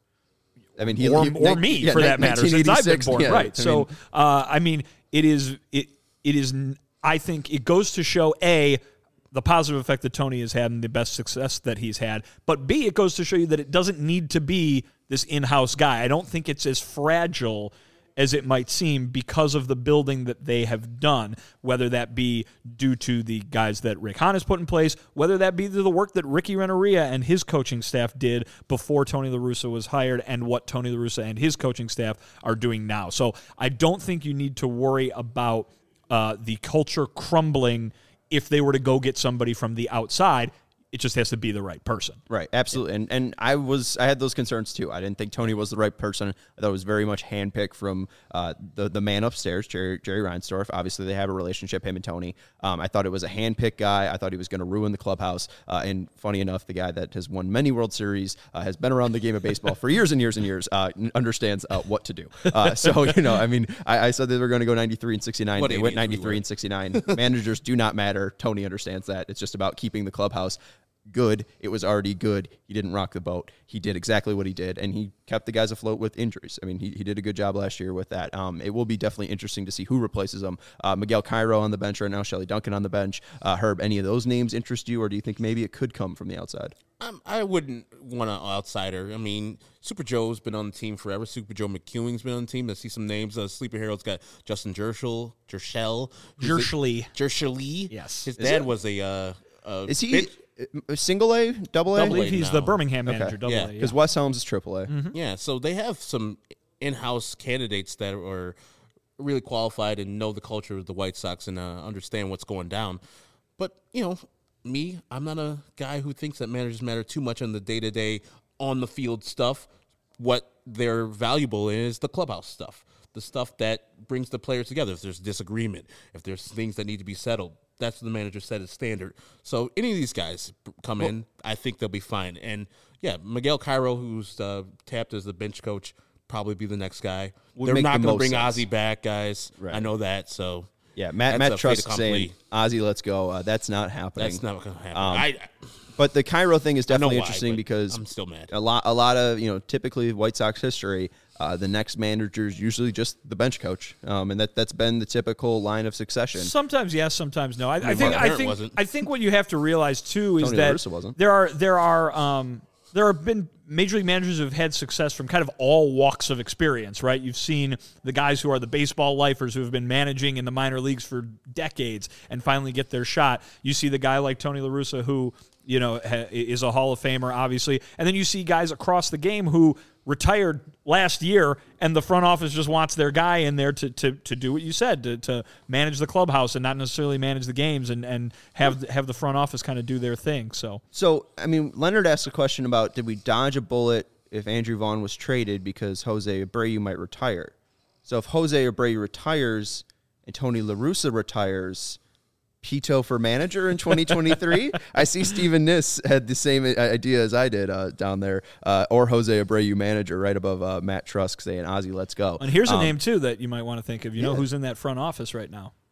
I mean, he, or, he, or me yeah, for that matter, since I've been born. Yeah, right. I so, mean, uh, I mean, it is it it is. I think it goes to show a the positive effect that Tony has had and the best success that he's had, but B, it goes to show you that it doesn't need to be this in-house guy. I don't think it's as fragile as it might seem because of the building that they have done, whether that be due to the guys that Rick Hahn has put in place, whether that be to the work that Ricky Renneria and his coaching staff did before Tony La Russa was hired and what Tony La Russa and his coaching staff are doing now. So I don't think you need to worry about uh, the culture crumbling if they were to go get somebody from the outside. It just has to be the right person. Right, absolutely. And and I was I had those concerns too. I didn't think Tony was the right person. I thought it was very much handpicked from uh, the the man upstairs, Jerry Jerry Reinsdorf. Obviously, they have a relationship, him and Tony. Um, I thought it was a handpicked guy. I thought he was going to ruin the clubhouse. Uh, and funny enough, the guy that has won many World Series, uh, has been around the game of baseball for years and years and years, uh, understands uh, what to do. Uh, so you know, I mean, I, I said they were going to go ninety-three and sixty-nine. What they went idiots we ninety-three were. and sixty-nine. Managers do not matter. Tony understands that. It's just about keeping the clubhouse good. It was already good. He didn't rock the boat. He did exactly what he did, and he kept the guys afloat with injuries. I mean, he, he did a good job last year with that. Um, it will be definitely interesting to see who replaces him. Uh, Miguel Cairo on the bench right now, Shelley Duncan on the bench. Uh, Herb, any of those names interest you, or do you think maybe it could come from the outside? Um, I wouldn't want an outsider. I mean, Super Joe's been on the team forever. Super Joe McEwing's been on the team. I see some names. Uh, Sleeper Hero's got Justin Jershel, Jershel. Jershely. Jershely. Yes. His Is dad it? was a uh, uh, Is he bench- uh, single A, double A? I believe he's the now. Birmingham manager. Okay. Double Yeah. A, yeah. Because Wes Helms is triple A. Mm-hmm. Yeah, so they have some in-house candidates that are really qualified and know the culture of the White Sox and uh, understand what's going down. But, you know, me, I'm not a guy who thinks that managers matter too much on the day-to-day, on-the-field stuff. What they're valuable in is the clubhouse stuff, the stuff that brings the players together. If there's disagreement, if there's things that need to be settled, that's what the manager set as standard. So any of these guys come in, I think they'll be fine. And, yeah, Miguel Cairo, who's uh, tapped as the bench coach, probably be the next guy. Would They're make not the going to most bring sense. Ozzie back, guys. Right. I know that, so... Yeah, Matt, That's Matt a fait Truss accompli. saying, Ozzy, let's go. Uh, that's not happening. That's not going to happen. Um, I, But the Cairo thing is I know definitely why, interesting but because I'm still mad. a lot, a lot of you know, typically White Sox history, uh, the next manager is usually just the bench coach, um, and that that's been the typical line of succession. Sometimes yes, sometimes no. I, I think Mark I Barrett think wasn't. I think what you have to realize too is Tony La that Russa wasn't. there are there are um, there have been major league managers who have had success from kind of all walks of experience, right? You've seen the guys who are the baseball lifers who have been managing in the minor leagues for decades and finally get their shot. You see the guy like Tony La Russa who, you know, ha- is a Hall of Famer, obviously. And then you see guys across the game who retired last year, and the front office just wants their guy in there to to, to do what you said, to, to manage the clubhouse and not necessarily manage the games and, and have have the front office kind of do their thing. So So, I mean, Leonard asked a question about did we dodge a bullet if Andrew Vaughn was traded because Jose Abreu might retire? So if Jose Abreu retires and Tony La Russa retires, Pito for manager in twenty twenty-three? I see Steven Niss had the same idea as I did uh, down there, uh, or Jose Abreu manager right above uh, Matt Trusk saying, Ozzy, let's go. and here's a Um, name too that you might want to think of. You know yeah. who's in that front office right now?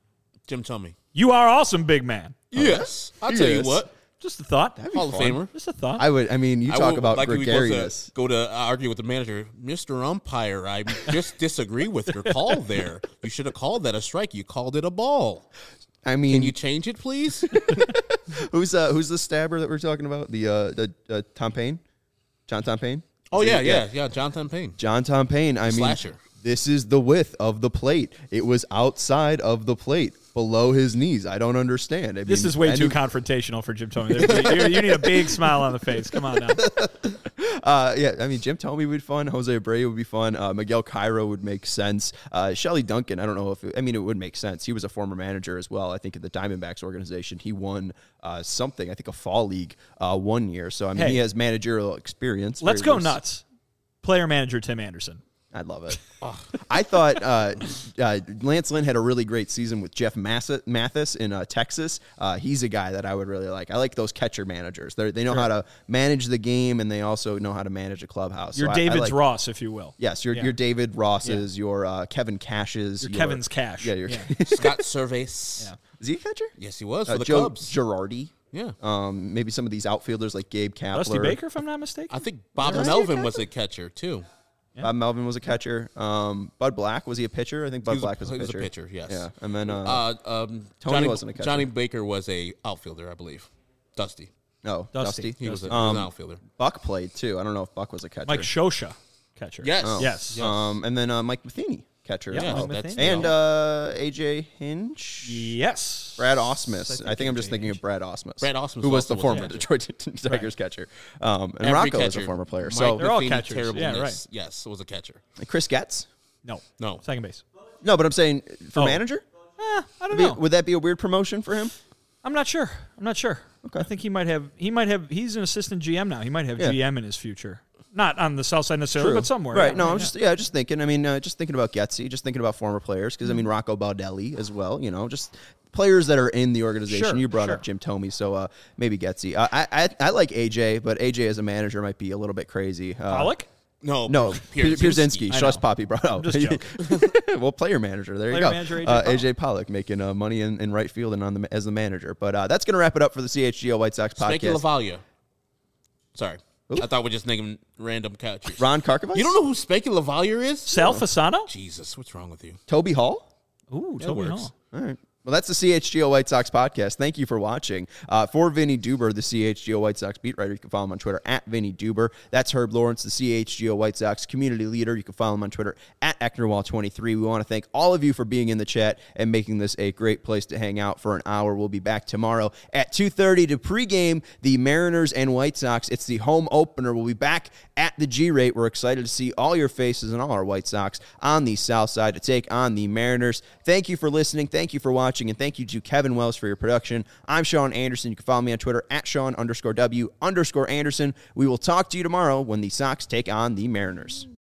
Jim Thome. You are awesome, big man. Yes. I'll tell you Yes. what. Just a thought. Hall of Famer. Just a thought. I would. I mean, you I talk would about like to be able gregarious. to go to argue with the manager. Mister Umpire, I just disagree with your call there. You should have called that a strike. You called it a ball. I mean, Can you change it, please? who's uh, who's the stabber that we're talking about? The uh, the uh, Tom Payne, John Tom Payne. Oh, Is yeah, it? yeah, yeah. Jonathan Payne. John Tom Payne. I mean, Slasher. this is the width of the plate. It was outside of the plate, below his knees. I don't understand. I this mean, is way any- too confrontational for Jim Thome. you, you need a big smile on the face. Come on now. Uh, yeah, I mean, Jim Thome would be fun. Jose Abreu would be fun. Uh, Miguel Cairo would make sense. Uh, Shelly Duncan, I don't know if it, I mean, it would make sense. He was a former manager as well. I think in the Diamondbacks organization, he won uh, something. I think a fall league uh, one year. So I mean, Hey. he has managerial experience. Let's Very go loose. nuts. Player manager Tim Anderson. I'd love it. I thought uh, uh, Lance Lynn had a really great season with Jeff Massa- Mathis in uh, Texas. Uh, he's a guy that I would really like. I like those catcher managers. They they know how to manage the game, and they also know how to manage a clubhouse. Your So I- I David's like- Ross, if you will. Yes, your Yeah. your David Rosses, your uh, Kevin Cashes, Your Kevin's Cash. Yeah, your Yeah. Scott Servais. Yeah. is he a catcher? Yes, he was for Uh, the Joe Cubs. Girardi. Yeah. Um, maybe some of these outfielders like Gabe Kapler. Dusty Baker, if I'm not mistaken. I think Bob Is he a Melvin catcher? was a catcher, too. Bob Melvin was a catcher. Um, Bud Black, was he a pitcher? I think Bud was a- Black was a he was a pitcher. pitcher, yes. Yeah, and then uh, Uh, um, Tony Johnny, wasn't a catcher. Johnny Baker was a outfielder, I believe. Dusty. no, Dusty. Dusty. He was, a, he was Um, an outfielder. Buck played too. I don't know if Buck was a catcher. Mike Shosha, catcher. Yes. Oh. Yes. Yes. Um, and then uh, Mike Matheny, catcher. Yeah, as Yes, well. Mike that's Matheny. And uh, A J Hinch. Yes. Brad Osmus. think I think I'm just A J thinking of Brad Osmus. Brad Osmus who was the also was a former catcher. Detroit Tigers catcher. Um, and Every Rocco is a catcher. former player. Mike So They're all Matheny, catchers. Yeah, terribleness. right. Yes, was a catcher. Chris Getz. No. No. Second base. No, but I'm saying for Oh. manager. Eh, I don't Be- know. would that be a weird promotion for him? I'm not sure. I'm not sure. Okay. I think he might have. He might have. He's an assistant G M now. He might have Yeah. G M in his future. Not on the south side necessarily, but somewhere. Right. Yeah, No, yeah. I'm just yeah, just thinking. I mean, uh, just thinking about Getzy, just thinking about former players because I mean Rocco Baldelli as well. You know, just players that are in the organization. Sure, you brought sure. up Jim Thome, so uh, maybe Getzy. Uh, I, I I like A J, but A J as a manager might be a little bit crazy. Uh, Pollock. No. No, Pierzynski. Pierzynski. I Just know. Poppy brought out. just joking. Well, player manager. There Player you go. manager, A J uh, Pollock. A J Pollock making uh, money in, in right field and on the as the manager. But uh, that's going to wrap it up for the C H G O White Sox Spanky podcast. Lavalia. Sorry. I thought we just naming random catchers. Ron Karkovic? You don't know who Spanky Lavalia is? Sal Fasano. Jesus, what's wrong with you? Toby Hall? Ooh, That Toby works. Hall. All right. Well, that's the C H G O White Sox podcast. Thank you for watching. Uh, for Vinny Duber, the C H G O White Sox beat writer, you can follow him on Twitter at Vinny Duber. That's Herb Lawrence, the C H G O White Sox community leader. You can follow him on Twitter at Ecknerwall twenty-three. We want to thank all of you for being in the chat and making this a great place to hang out for an hour. We'll be back tomorrow at two thirty to pregame the Mariners and White Sox. It's the home opener. We'll be back at the G-Rate. We're excited to see all your faces and all our White Sox on the south side to take on the Mariners. Thank you for listening. Thank you for watching. And thank you to Kevin Wells for your production. I'm Sean Anderson. You can follow me on Twitter at Sean underscore W underscore Anderson. We will talk to you tomorrow when the Sox take on the Mariners.